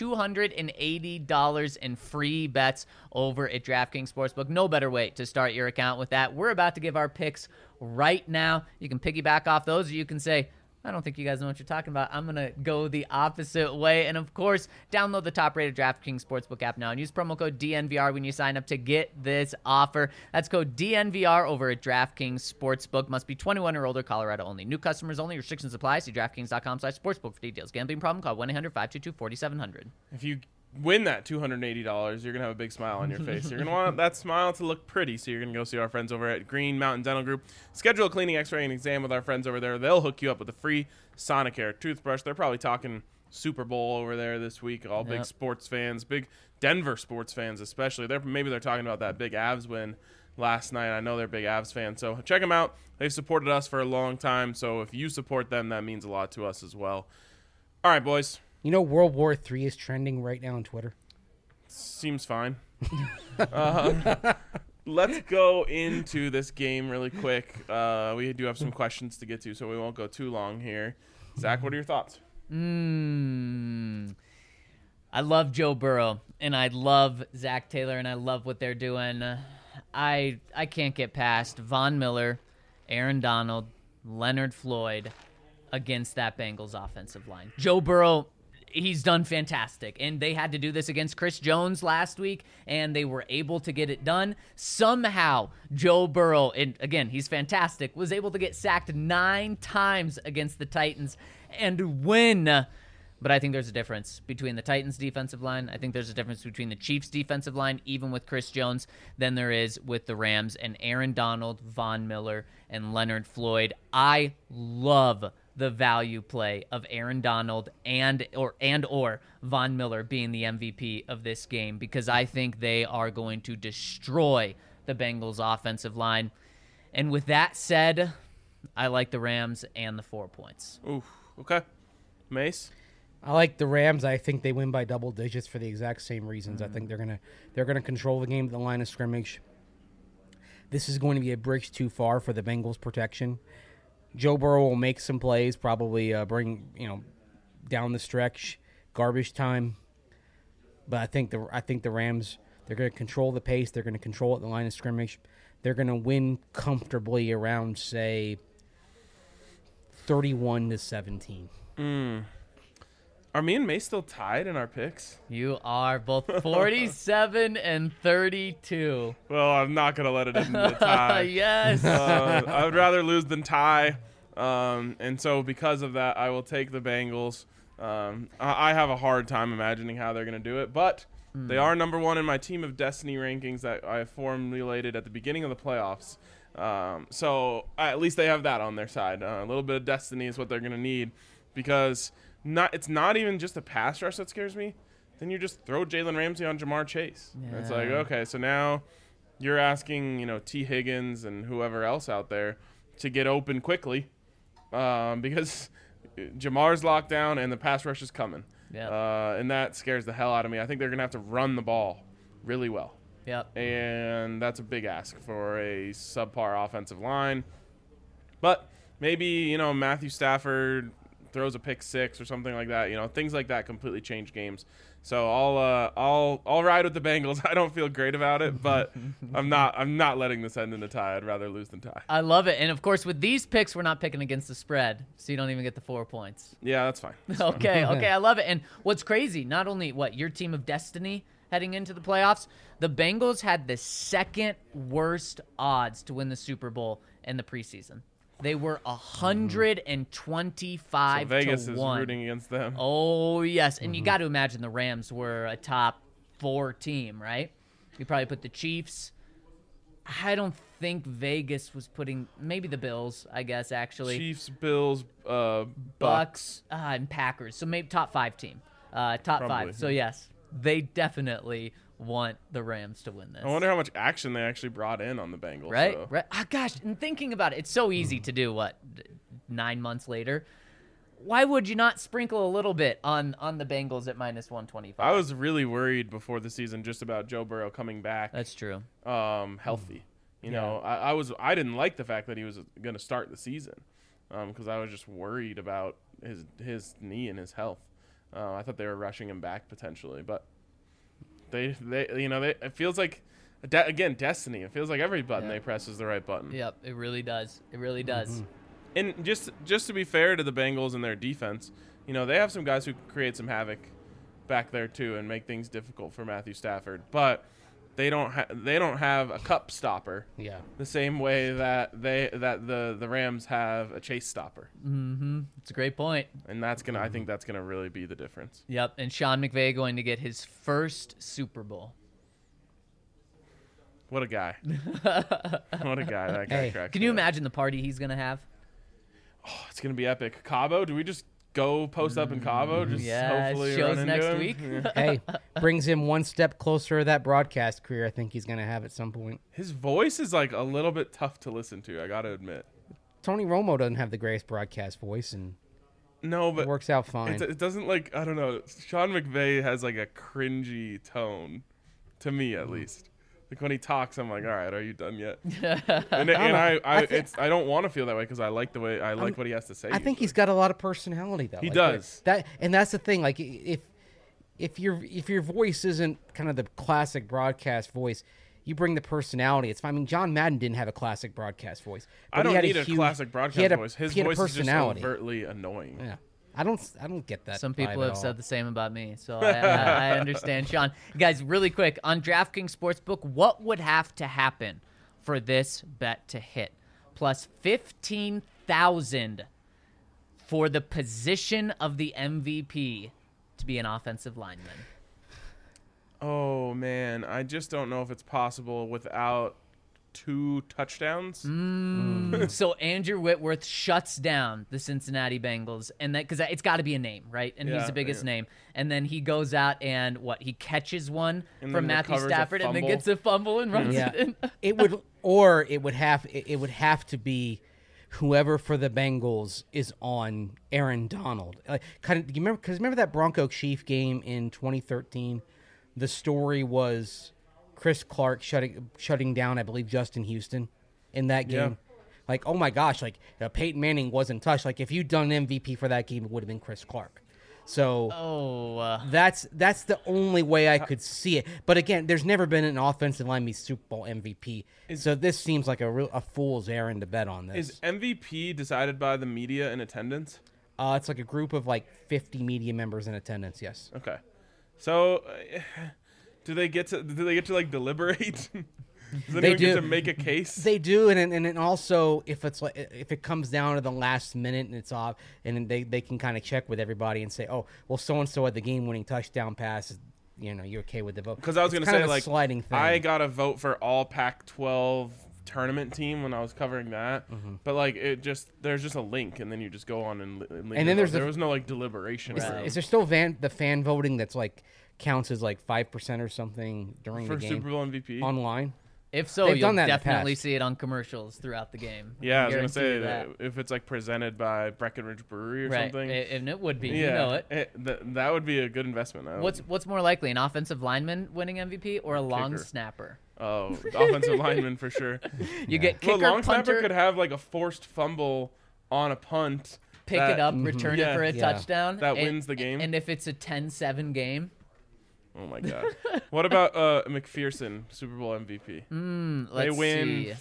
$280 in free bets over at DraftKings Sportsbook. No better way to start your account with that. We're about to give our picks right now. You can piggyback off those, or you can say, I don't think you guys know what you're talking about. I'm going to go the opposite way. And, of course, download the top-rated DraftKings Sportsbook app now and use promo code DNVR when you sign up to get this offer. That's code DNVR over at DraftKings Sportsbook. Must be 21 or older, Colorado only. New customers only. Restrictions apply. See DraftKings.com/sportsbook for details. Gambling problem? Call 1-800-522-4700. If you win that $280, you're gonna have a big smile on your face. You're gonna want that smile to look pretty, so you're gonna go see our friends over at Green Mountain Dental Group. Schedule a cleaning, x-ray, and exam with our friends over there. They'll hook you up with a free Sonicare toothbrush. They're probably talking Super Bowl over there this week. All big sports fans, big Denver sports fans especially. Maybe they're talking about that big Avs win last night. I know they're big Avs fans, so check them out. They've supported us for a long time, so if you support them, that means a lot to us as well. All right, boys. You know, World War III is trending right now on Twitter. Seems fine. Let's go into this game really quick. We do have some questions to get to, so we won't go too long here. Zach, what are your thoughts? I love Joe Burrow, and I love Zach Taylor, and I love what they're doing. I can't get past Von Miller, Aaron Donald, Leonard Floyd against that Bengals offensive line. Joe Burrow, he's done fantastic, and they had to do this against Chris Jones last week, and they were able to get it done. Somehow, Joe Burrow, and again, he's fantastic, was able to get sacked 9 times against the Titans and win But I think there's a difference between the Titans' defensive line. I think there's a difference between the Chiefs' defensive line, even with Chris Jones, than there is with the Rams and Aaron Donald, Von Miller, and Leonard Floyd. I love the value play of Aaron Donald and or Von Miller being the MVP of this game, because I think they are going to destroy the Bengals' offensive line. And with that said, I like the Rams and the 4 points. Oof. Okay. Mace? I like the Rams. I think they win by double digits for the exact same reasons. I think they're gonna control the game at the line of scrimmage. This is going to be a bridge too far for the Bengals' protection. Joe Burrow will make some plays, probably bring down the stretch, garbage time. But I think the Rams, they're going to control the pace. They're going to control at the line of scrimmage. They're going to win comfortably around, say, 31-17. Are me and Mace still tied in our picks? You are both 47 and 32. Well, I'm not going to let it into the tie. Yes. I would rather lose than tie. And so because of that, I will take the Bengals. I have a hard time imagining how they're going to do it, but they are number one in my team of destiny rankings that I formulated at the beginning of the playoffs. So at least they have that on their side. A little bit of destiny is what they're going to need, because it's not even just a pass rush that scares me. Then you just throw Jalen Ramsey on Jamar Chase. Yeah. It's like, okay, so now you're asking, T. Higgins and whoever else out there to get open quickly, because Jamar's locked down and the pass rush is coming. Yeah. And that scares the hell out of me. I think they're going to have to run the ball really well. Yep. And that's a big ask for a subpar offensive line. But maybe, Matthew Stafford throws a pick six or something like that. Things like that completely change games. So I'll ride with the Bengals. I don't feel great about it, but I'm not letting this end in a tie. I'd rather lose than tie. I love it. And of course, with these picks, we're not picking against the spread, so you don't even get the 4 points. Yeah, that's fine. Okay, I love it. And what's crazy, not only your team of destiny heading into the playoffs, the Bengals had the second worst odds to win the Super Bowl in the preseason. They were 125 So Vegas to is 1. rooting against them. Oh, yes. And you got to imagine the Rams were a top 4 team, right? You probably put the Chiefs. I don't think Vegas was putting – maybe the Bills, I guess, actually. Chiefs, Bills, Bucks, and Packers. So maybe top 5 team. Top Probably. 5. So, yes, they definitely want the Rams to win this. I wonder how much action they actually brought in on the Bengals. Right? So. Right. Oh, gosh, and thinking about it, it's so easy to do, 9 months later. Why would you not sprinkle a little bit on the Bengals at minus 125? I was really worried before the season just about Joe Burrow coming back That's true. healthy. I didn't like the fact that he was going to start the season because I was just worried about his knee and his health. I thought they were rushing him back potentially, but they it feels like again destiny. It feels like every button they press is the right button. Yep, it really does. It really does. And just to be fair to the Bengals and their defense, they have some guys who create some havoc back there too and make things difficult for Matthew Stafford. But they don't have a cup stopper. Yeah. The same way that the Rams have a chase stopper. Mm-hmm. It's a great point. And I think that's gonna really be the difference. Yep, and Sean McVay going to get his first Super Bowl. What a guy. What a guy. That guy cracks Can me you up. imagine the party he's going to have? Oh, it's gonna be epic. Cabo, do we just go post up in Cabo? Just Yeah, hopefully shows run into next him? week. Yeah. Hey, brings him one step closer to that broadcast career I think he's going to have at some point. His voice is like a little bit tough to listen to, I gotta admit. Tony Romo doesn't have the greatest broadcast voice, and No, but it works out fine. it doesn't I don't know. Sean McVay has like a cringy tone, to me at least. Like when he talks, I'm like, all right, are you done yet? and I don't want to feel that way because I like what he has to say. I think he's got a lot of personality, though. He Like, does. That's the thing. Like if your voice isn't kind of the classic broadcast voice, you bring the personality. It's fine. I mean, John Madden didn't have a classic broadcast voice. But I don't he had need a huge, classic broadcast voice. His he had a voice is just personality. overtly annoying. Yeah, I don't get that. Some vibe people at have all. said the same about me, so I understand, Sean. Guys, really quick, on DraftKings Sportsbook, what would have to happen for this bet to hit? Plus 15,000 for the position of the MVP to be an offensive lineman? Oh man, I just don't know if it's possible without 2 touchdowns. So Andrew Whitworth shuts down the Cincinnati Bengals, and that because it's got to be a name, right? And he's Yeah, the biggest yeah. name. And then he goes out and he catches one And from then Matthew recovers a Stafford, and then fumble. gets a fumble and runs Yeah, it in. it would have to be whoever for the Bengals is on Aaron Donald. Like, you remember that Bronco Chief game in 2013? The story was Chris Clark shutting down, I believe, Justin Houston in that game. Yeah. Like, oh my gosh, like Peyton Manning wasn't touched. Like, if you'd done MVP for that game, it would have been Chris Clark. So that's the only way I could see it. But again, there's never been an offensive lineman Super Bowl MVP. So this seems like a fool's errand to bet on this. Is MVP decided by the media in attendance? It's like a group of like 50 media members in attendance. Yes. Okay. So do they get to like deliberate? Does anyone get to make a case? They do, and then also if it comes down to the last minute and it's off, and then they can kind of check with everybody and say, oh, well, so and so had the game-winning touchdown pass. You're okay with the vote. Because I was It's going to kind say, of a like, sliding thing. I got a vote for all Pac-12 tournament team when I was covering that, but like there's just a link, and then you just go on and leave And it then up. There was no like deliberation. Is there still the fan voting that's like counts as like 5% or something during for the game Super Bowl MVP? online? If so, They've you'll done that in the definitely past. see it on commercials throughout the game. Yeah, I was Guarantee gonna say you that. if it's like presented by Breckenridge Brewery or Right, something. and it would be. Yeah, You know it. that would be a good investment. What's more likely, an offensive lineman winning MVP or a long Kicker. snapper? Oh, offensive lineman for sure. You get Well, kicker, long snapper punter, could have like a forced fumble on a punt. pick that- it up, return it Yeah. for a Yeah. touchdown. That and- wins the game. And if it's a 10-7 game, Oh my god. What about McPherson, Super Bowl MVP? They let's win see.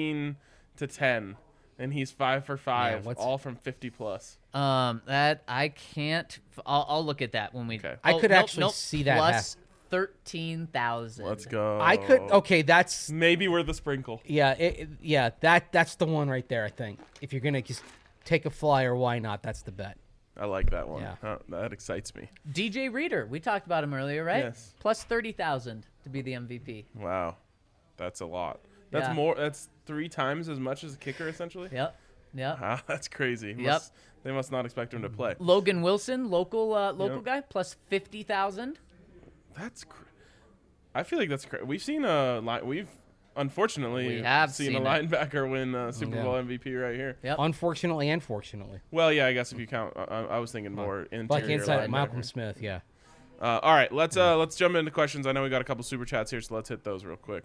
15-10, and he's 5 for 5, what's- all from 50 plus. That I can't. I'll look at that when we. Okay. I could nope, actually nope, see that plus 13,000. Let's go. I could. Okay, that's Maybe we're the sprinkle. yeah. That's the one right there. I think if you're gonna just take a flyer, why not? That's the bet. I like that one. Yeah. That excites me. DJ Reader, we talked about him earlier, right? Yes. Plus 30,000 to be the MVP. Wow. That's a lot. That's Yeah. more. That's 3 times as much as a kicker, essentially. Yep. Ah, that's crazy. Yep. They must not expect him to play. Logan Wilson, local Yep. guy, plus 50,000. That's. I feel like that's crazy. We've seen unfortunately We have seen a seen it. linebacker win Super Yeah. Bowl MVP right here. Yep. Unfortunately and fortunately, Well, yeah, I guess if you count, I was thinking more interior like inside linebacker. Malcolm Smith. Yeah. All right, let's jump into questions. I know we got a couple super chats here, so let's hit those real quick.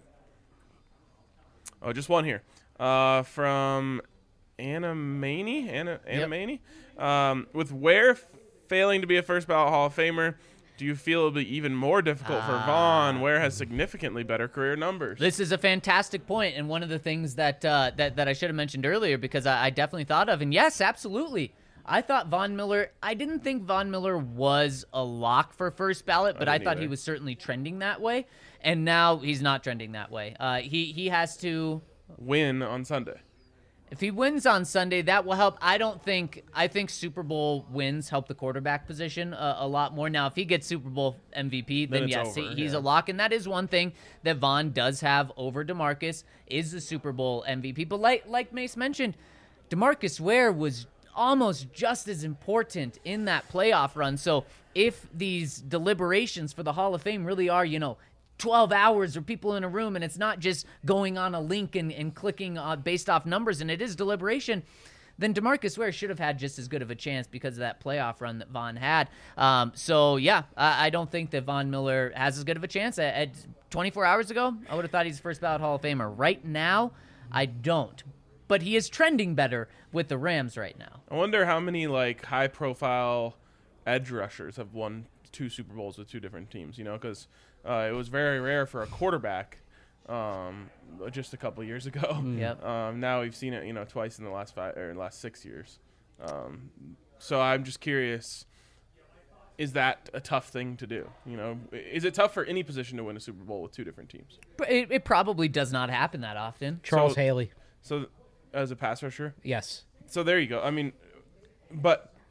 Oh, just one here from Anna Maney. Anna Yep. Maney. With Ware failing to be a first ballot Hall of Famer, do you feel it'll be even more difficult for Vaughn? Ware has significantly better career numbers. This is a fantastic point, and one of the things that that I should have mentioned earlier because I definitely thought of. And yes, absolutely. I thought Von Miller. I didn't think Von Miller was a lock for first ballot, but I didn't thought he either. was certainly trending that way. And now he's not trending that way. He has to. Win on Sunday. If he wins on Sunday, that will help. I think Super Bowl wins help the quarterback position a lot more. Now, if he gets Super Bowl MVP, then it's yes, over, he's yeah. a lock. And that is one thing that Vaughn does have over DeMarcus is the Super Bowl MVP. But like Mace mentioned, DeMarcus Ware was almost just as important in that playoff run. So if these deliberations for the Hall of Fame really are, 12 hours or people in a room, and it's not just going on a link and clicking based off numbers, and it is deliberation, then DeMarcus Ware should have had just as good of a chance because of that playoff run that Vaughn had. I don't think that Von Miller has as good of a chance. At 24 hours ago, I would have thought he's first ballot Hall of Famer. Right now, I don't. But he is trending better with the Rams right now. I wonder how many like high-profile edge rushers have won 2 Super Bowls with 2 different teams. Because it was very rare for a quarterback just a couple years ago. Yep. Now we've seen it, twice in the last 6 years. So I'm just curious, is that a tough thing to do? Is it tough for any position to win a Super Bowl with 2 different teams? But it probably does not happen that often. Charles So- Haley. So as a pass rusher? Yes. So there you go. I mean, but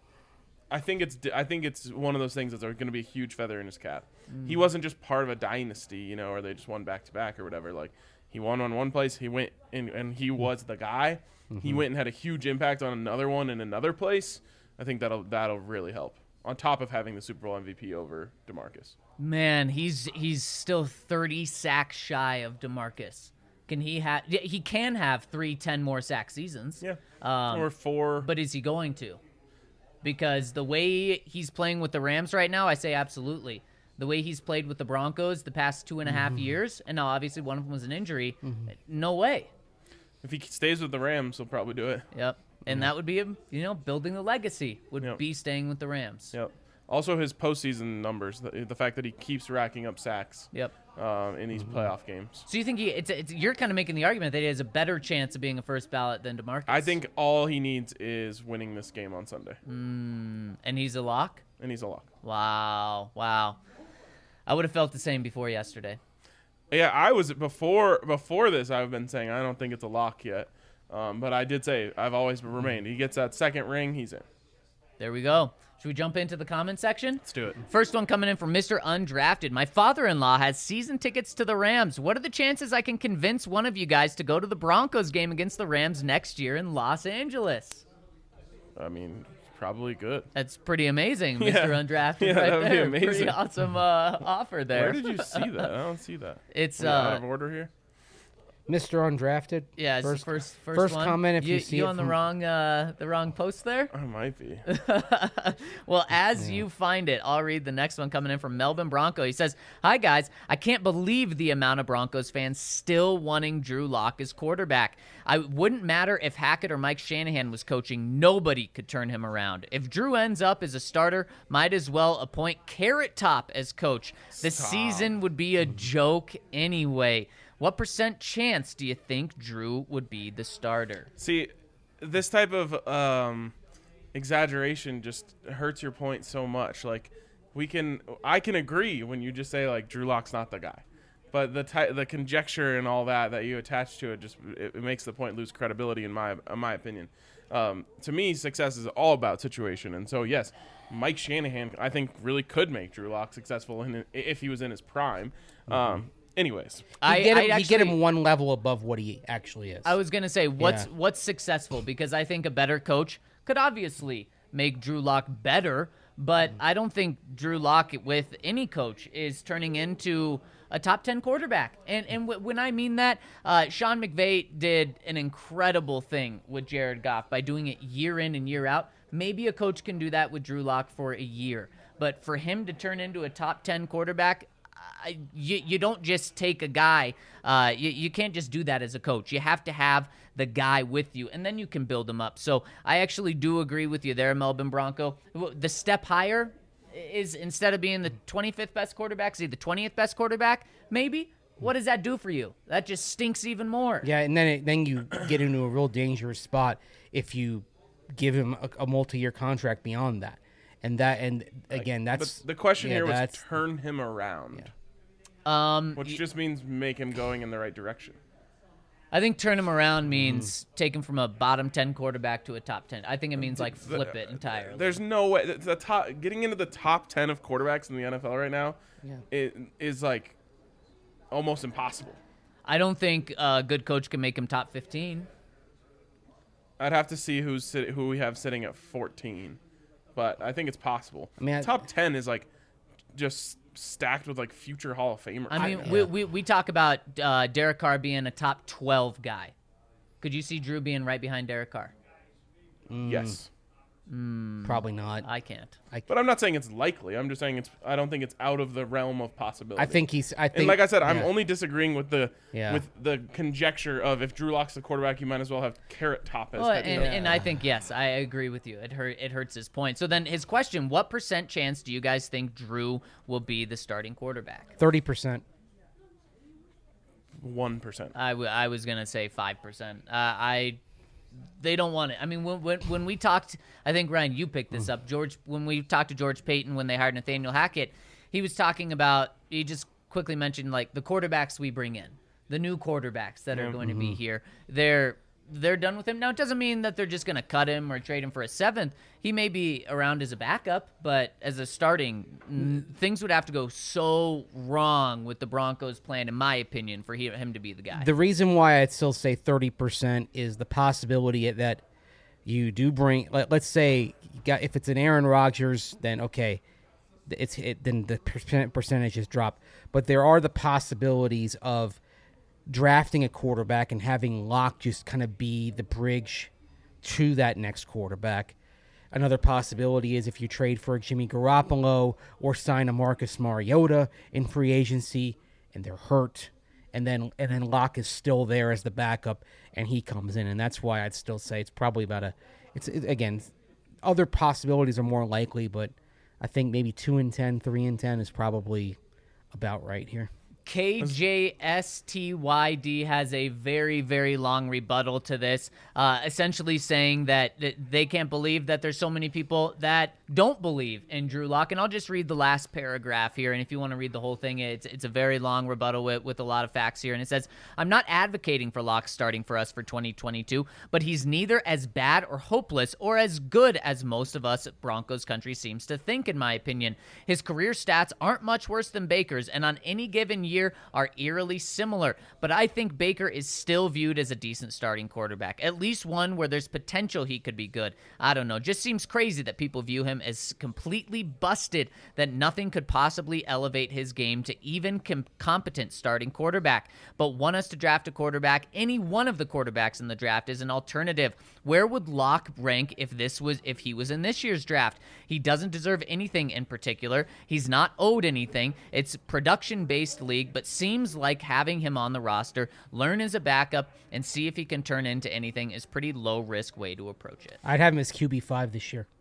I think it's one of those things that's going to be a huge feather in his cap. He wasn't just part of a dynasty, or they just won back to back or whatever. Like, he won on one place, he went in, and he was the guy. He went and had a huge impact on another one in another place. I think that'll really help. On top of having the Super Bowl MVP over DeMarcus. Man, he's still 30 sacks shy of DeMarcus. He can have 10 more sack seasons. Yeah. Or 4. But is he going to? Because the way he's playing with the Rams right now, I say absolutely. The way he's played with the Broncos the past 2.5 years, and now obviously one of them was an injury, no way. If he stays with the Rams, he'll probably do it. Yep. And that would be him, building the legacy would be staying with the Rams. Yep. Also, his postseason numbers, the fact that he keeps racking up sacks. Yep. In these playoff games. So you think you're kind of making the argument that he has a better chance of being a first ballot than DeMarcus? I think all he needs is winning this game on Sunday. And he's a lock? And he's a lock. Wow. I would have felt the same before yesterday. Yeah, I was before this. I've been saying I don't think it's a lock yet, but I did say I've always remained. He gets that second ring, he's in. There we go. Should we jump into the comment section? Let's do it. First one coming in from Mr. Undrafted. My father-in-law has season tickets to the Rams. What are the chances I can convince one of you guys to go to the Broncos game against the Rams next year in Los Angeles? I mean, probably good. That's pretty amazing, Mr. Yeah. Undrafted, Yeah, right that would be there. amazing. Pretty awesome offer there. Where did you see that? I don't see that. It's Are we out of order here. Mr. Undrafted. Yeah, it's first, the first first one. comment. If you see you it on from, the wrong post there. I might be. Well, as you find it, I'll read the next one coming in from Melvin Bronco. He says, "Hi guys, I can't believe the amount of Broncos fans still wanting Drew Lock as quarterback. I wouldn't matter if Hackett or Mike Shanahan was coaching. Nobody could turn him around. If Drew ends up as a starter, might as well appoint Carrot Top as coach. The season would be a joke anyway." What % chance do you think Drew would be the starter? See, this type of exaggeration just hurts your point so much. Like, I can agree when you just say like Drew Lock's not the guy, but the conjecture and all that you attach to it it makes the point lose credibility in my opinion. To me, success is all about situation, and so yes, Mike Shanahan I think really could make Drew Lock successful if he was in his prime. Anyways, you get him one level above what he actually is. I was gonna say what's successful, because I think a better coach could obviously make Drew Lock better, but I don't think Drew Lock with any coach is turning into a top 10 quarterback. And when I mean that, Sean McVay did an incredible thing with Jared Goff by doing it year in and year out. Maybe a coach can do that with Drew Lock for a year, but for him to turn into a top 10 quarterback, you don't just take a guy. You can't just do that as a coach. You have to have the guy with you, and then you can build him up. So I actually do agree with you there, Melvin Bronco. The step higher is, instead of being the 25th best quarterback, say the 20th best quarterback, maybe. What does that do for you? That just stinks even more. Yeah, and then you get into a real dangerous spot if you give him a multi-year contract beyond that. And again, that's the question here was turn him around. Yeah. Which just means make him going in the right direction. I think turn him around means take him from a bottom 10 quarterback to a top 10. I think it means like flip it entirely. There's no way getting into the top 10 of quarterbacks in the NFL right now is like almost impossible. I don't think a good coach can make him top 15. I'd have to see who we have sitting at 14, but I think it's possible. I mean, top 10 is like just stacked with like future Hall of Famers. I mean, we talk about Derek Carr being a top 12 guy. Could you see Drew being right behind Derek Carr? Yes. Probably not. I can't. But I'm not saying it's likely. I'm just saying I don't think it's out of the realm of possibility. I think and like I said, I'm only disagreeing with the conjecture of if Drew Lock's the quarterback, you might as well have Carrot Top as head coach. And I think, yes, I agree with you. It hurts his point. So then his question, what % chance do you guys think Drew will be the starting quarterback? 30%. 1%. I was going to say 5%. They don't want it. I mean, when we talked, I think, Ryan, you picked this up. When we talked to George Payton when they hired Nathaniel Hackett, he was talking about, he just quickly mentioned, like, the quarterbacks we bring in, the new quarterbacks that are going to be here. they're done with him. Now, it doesn't mean that they're just going to cut him or trade him for a 7th. He may be around as a backup, but as a starting, things would have to go so wrong with the Broncos' plan, in my opinion, for him to be the guy. The reason why I'd still say 30% is the possibility that you do bring. Let's say if it's an Aaron Rodgers, then okay, then the percentages drop. But there are the possibilities of drafting a quarterback and having Locke just kind of be the bridge to that next quarterback. Another possibility is if you trade for a Jimmy Garoppolo or sign a Marcus Mariota in free agency and they're hurt, and then Locke is still there as the backup and he comes in, and that's why I'd still say it's probably about again, other possibilities are more likely, but I think maybe 2-10, 3-10 is probably about right here. KJSTYD has a very, very long rebuttal to this, essentially saying that they can't believe that there's so many people that don't believe in Drew Lock. And I'll just read the last paragraph here, and if you want to read the whole thing, it's a very long rebuttal with a lot of facts here. And it says, I'm not advocating for Lock starting for us for 2022, but he's neither as bad or hopeless or as good as most of us Broncos country seems to think, in my opinion. His career stats aren't much worse than Baker's, and on any given year are eerily similar, but I think Baker is still viewed as a decent starting quarterback, at least one where there's potential he could be good. I don't know, just seems crazy that people view him as completely busted, that nothing could possibly elevate his game to even competent starting quarterback, but want us to draft a quarterback. Any one of the quarterbacks in the draft is an alternative. Where would Locke rank if he was in this year's draft? He doesn't deserve anything in particular. He's not owed anything. It's production-based league, but seems like having him on the roster, learn as a backup, and see if he can turn into anything is pretty low-risk way to approach it. I'd have him as QB5 this year.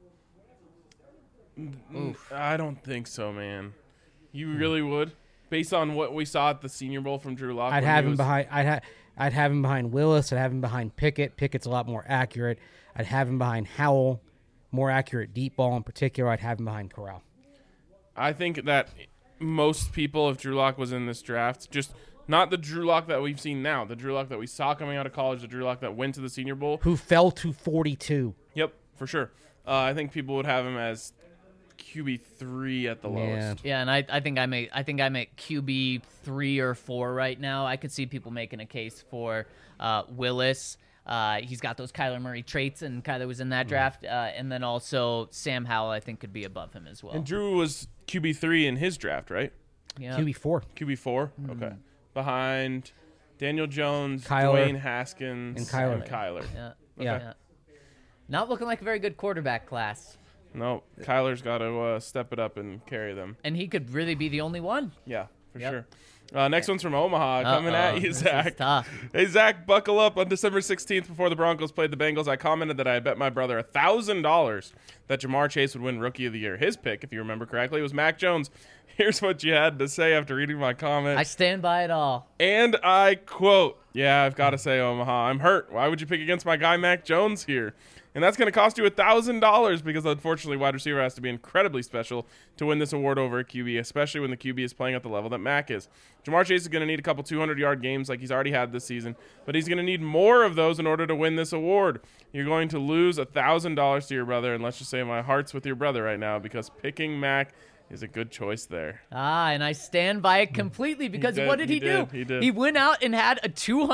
Oof. I don't think so, man. You really would? Based on what we saw at the Senior Bowl from Drew Lock? I'd have him behind Willis. I'd have him behind Pickett. Pickett's a lot more accurate. I'd have him behind Howell, more accurate deep ball in particular. I'd have him behind Corral. I think that most people, if Drew Lock was in this draft, just not the Drew Lock that we've seen now, the Drew Lock that we saw coming out of college, the Drew Lock that went to the Senior Bowl. Who fell to 42. Yep, for sure. I think people would have him as QB3 at the lowest. Yeah, and I think I'm at QB 3 or 4 right now. I could see people making a case for Willis. He's got those Kyler Murray traits, and Kyler was in that draft. And then also Sam Howell, I think, could be above him as well. And Drew was QB3 in his draft, right? Yeah. QB4. QB4? Okay. Behind Daniel Jones, Kyler, Dwayne Haskins, and Kyler. Yeah. Okay. Yeah. Not looking like a very good quarterback class. No, Kyler's got to step it up and carry them. And he could really be the only one. Yeah, for Yep. sure. Next one's from Omaha, coming at you, This Zach. is tough. Hey, Zach, buckle up. On December 16th, before the Broncos played the Bengals, I commented that I bet my brother $1,000 that Jamar Chase would win Rookie of the Year. His pick, if you remember correctly, was Mac Jones. Here's what you had to say after reading my comment. I stand by it all. And I quote, yeah, I've got to say, Omaha, I'm hurt. Why would you pick against my guy Mac Jones here? And that's going to cost you $1,000 because, unfortunately, wide receiver has to be incredibly special to win this award over a QB, especially when the QB is playing at the level that Mac is. Jamar Chase is going to need a couple 200-yard games like he's already had this season, but he's going to need more of those in order to win this award. You're going to lose $1,000 to your brother, and let's just say my heart's with your brother right now because picking Mac is a good choice there. And I stand by it completely because what did he do? He did. He went out and had a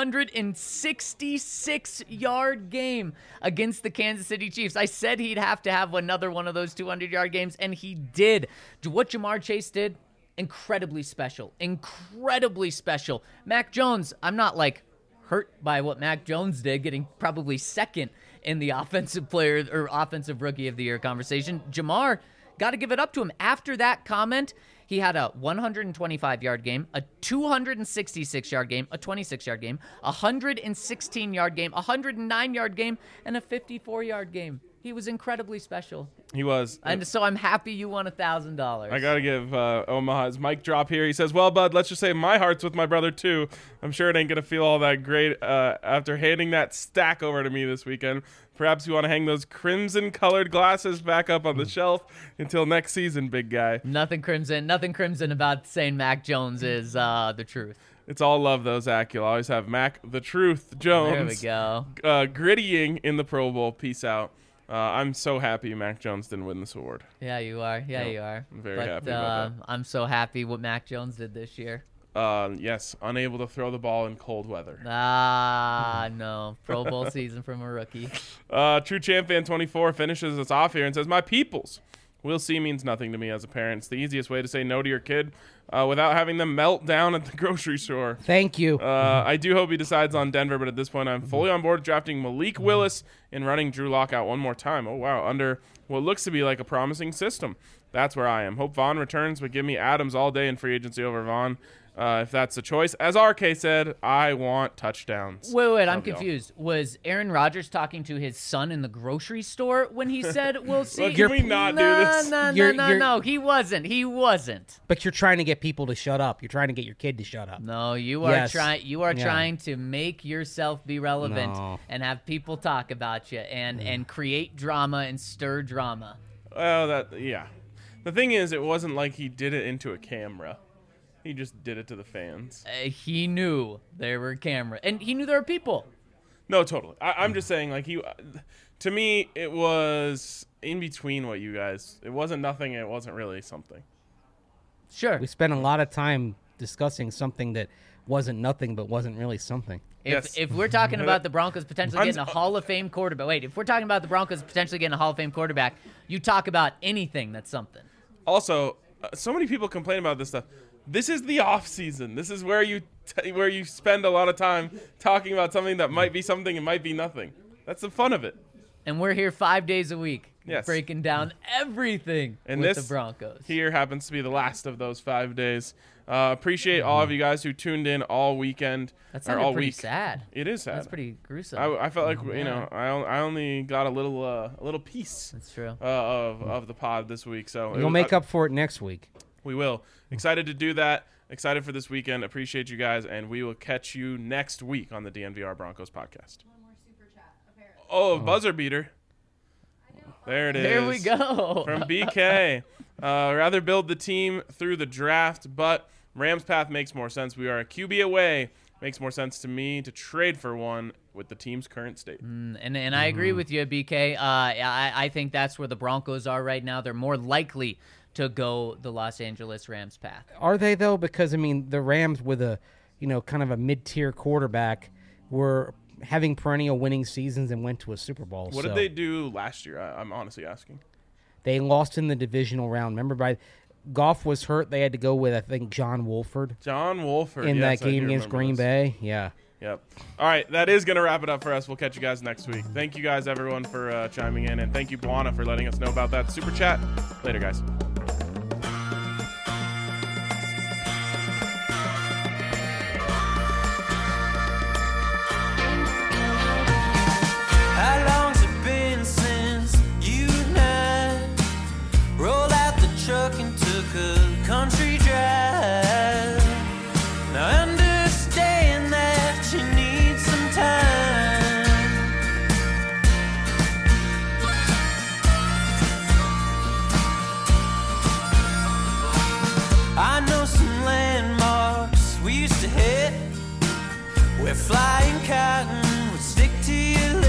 266-yard game against the Kansas City Chiefs. I said he'd have to have another one of those 200-yard games, and he did. What Jamar Chase did, incredibly special. Incredibly special. Mac Jones, I'm not hurt by what Mac Jones did, getting probably second in the offensive player or offensive rookie of the year conversation. Jamar, got to give it up to him. After that comment, he had a 125-yard game, a 266-yard game, a 26-yard game, a 116-yard game, a 109-yard game, and a 54-yard game. He was incredibly special. He was. And so I'm happy you won $1,000. I got to give Omaha his mic drop here. He says, well, bud, let's just say my heart's with my brother, too. I'm sure it ain't going to feel all that great after handing that stack over to me this weekend. Perhaps you want to hang those crimson-colored glasses back up on the shelf until next season, big guy. Nothing crimson about saying Mac Jones is the truth. It's all love, though, Zach. You'll always have Mac the Truth Jones. There we go. Grittying in the Pro Bowl. Peace out. I'm so happy Mac Jones didn't win this award. Yeah, you are. Yeah, you are. I'm very happy about that. I'm so happy what Mac Jones did this year. Yes, unable to throw the ball in cold weather. No. Pro Bowl season from a rookie. True Champ Fan 24 finishes us off here and says, my peoples. We'll see means nothing to me as a parent. It's the easiest way to say no to your kid without having them melt down at the grocery store. Thank you. I do hope he decides on Denver, but at this point I'm fully on board drafting Malik Willis and running Drew Lock out one more time. Oh, wow. Under what looks to be like a promising system. That's where I am. Hope Vaughn returns, but give me Adams all day in free agency over Vaughn. If that's the choice. As RK said, I want touchdowns. Wait, I'm confused. Was Aaron Rodgers talking to his son in the grocery store when he said, we'll see? Well, can we not do this? No, he wasn't. But you're trying to get people to shut up. You're trying to get your kid to shut up. No, you are trying to make yourself be relevant and have people talk about you and create drama and stir drama. Well, the thing is, it wasn't like he did it into a camera. He just did it to the fans. He knew there were cameras, and he knew there were people. No, totally. I'm just saying, like, to me, it was in between what you guys. It wasn't nothing. It wasn't really something. Sure. We spent a lot of time discussing something that wasn't nothing, but wasn't really something. If we're talking about the Broncos potentially getting a Hall of Fame quarterback, if we're talking about the Broncos potentially getting a Hall of Fame quarterback, you talk about anything that's something. Also, so many people complain about this stuff. This is the off season. This is where you spend a lot of time talking about something that might be something and might be nothing. That's the fun of it. And we're here 5 days a week, yes, breaking down everything and with this the Broncos. Here happens to be the last of those 5 days. Appreciate all of you guys who tuned in all weekend. That's all pretty week. Sad. It is sad. That's pretty gruesome. I felt like I only got a little piece. That's true. Of the pod this week. So you'll make up for it next week. We will. Excited to do that. Excited for this weekend. Appreciate you guys, and we will catch you next week on the DNVR Broncos podcast. One more super chat, apparently. Oh, buzzer beater. There it is. There we go. From BK. Rather build the team through the draft, but Rams path makes more sense. We are a QB away. Makes more sense to me to trade for one with the team's current state. And I agree with you, BK. I think that's where the Broncos are right now. They're more likely to go the Los Angeles Rams path. Are they, though? Because, I mean, the Rams with a, kind of a mid-tier quarterback were having perennial winning seasons and went to a Super Bowl. What did they do last year? I'm honestly asking. They lost in the divisional round. Remember, Goff was hurt. They had to go with, I think, John Wolford. In that game against Green Bay. Yeah. Yep. All right, that is going to wrap it up for us. We'll catch you guys next week. Thank you guys, everyone, for chiming in, and thank you, Buana, for letting us know about that super chat. Later, guys. How long's it been since you and I rolled out the truck and took a country drive? Now I understand that you need some time. I know some landmarks we used to hit where flying cotton would stick to your lips.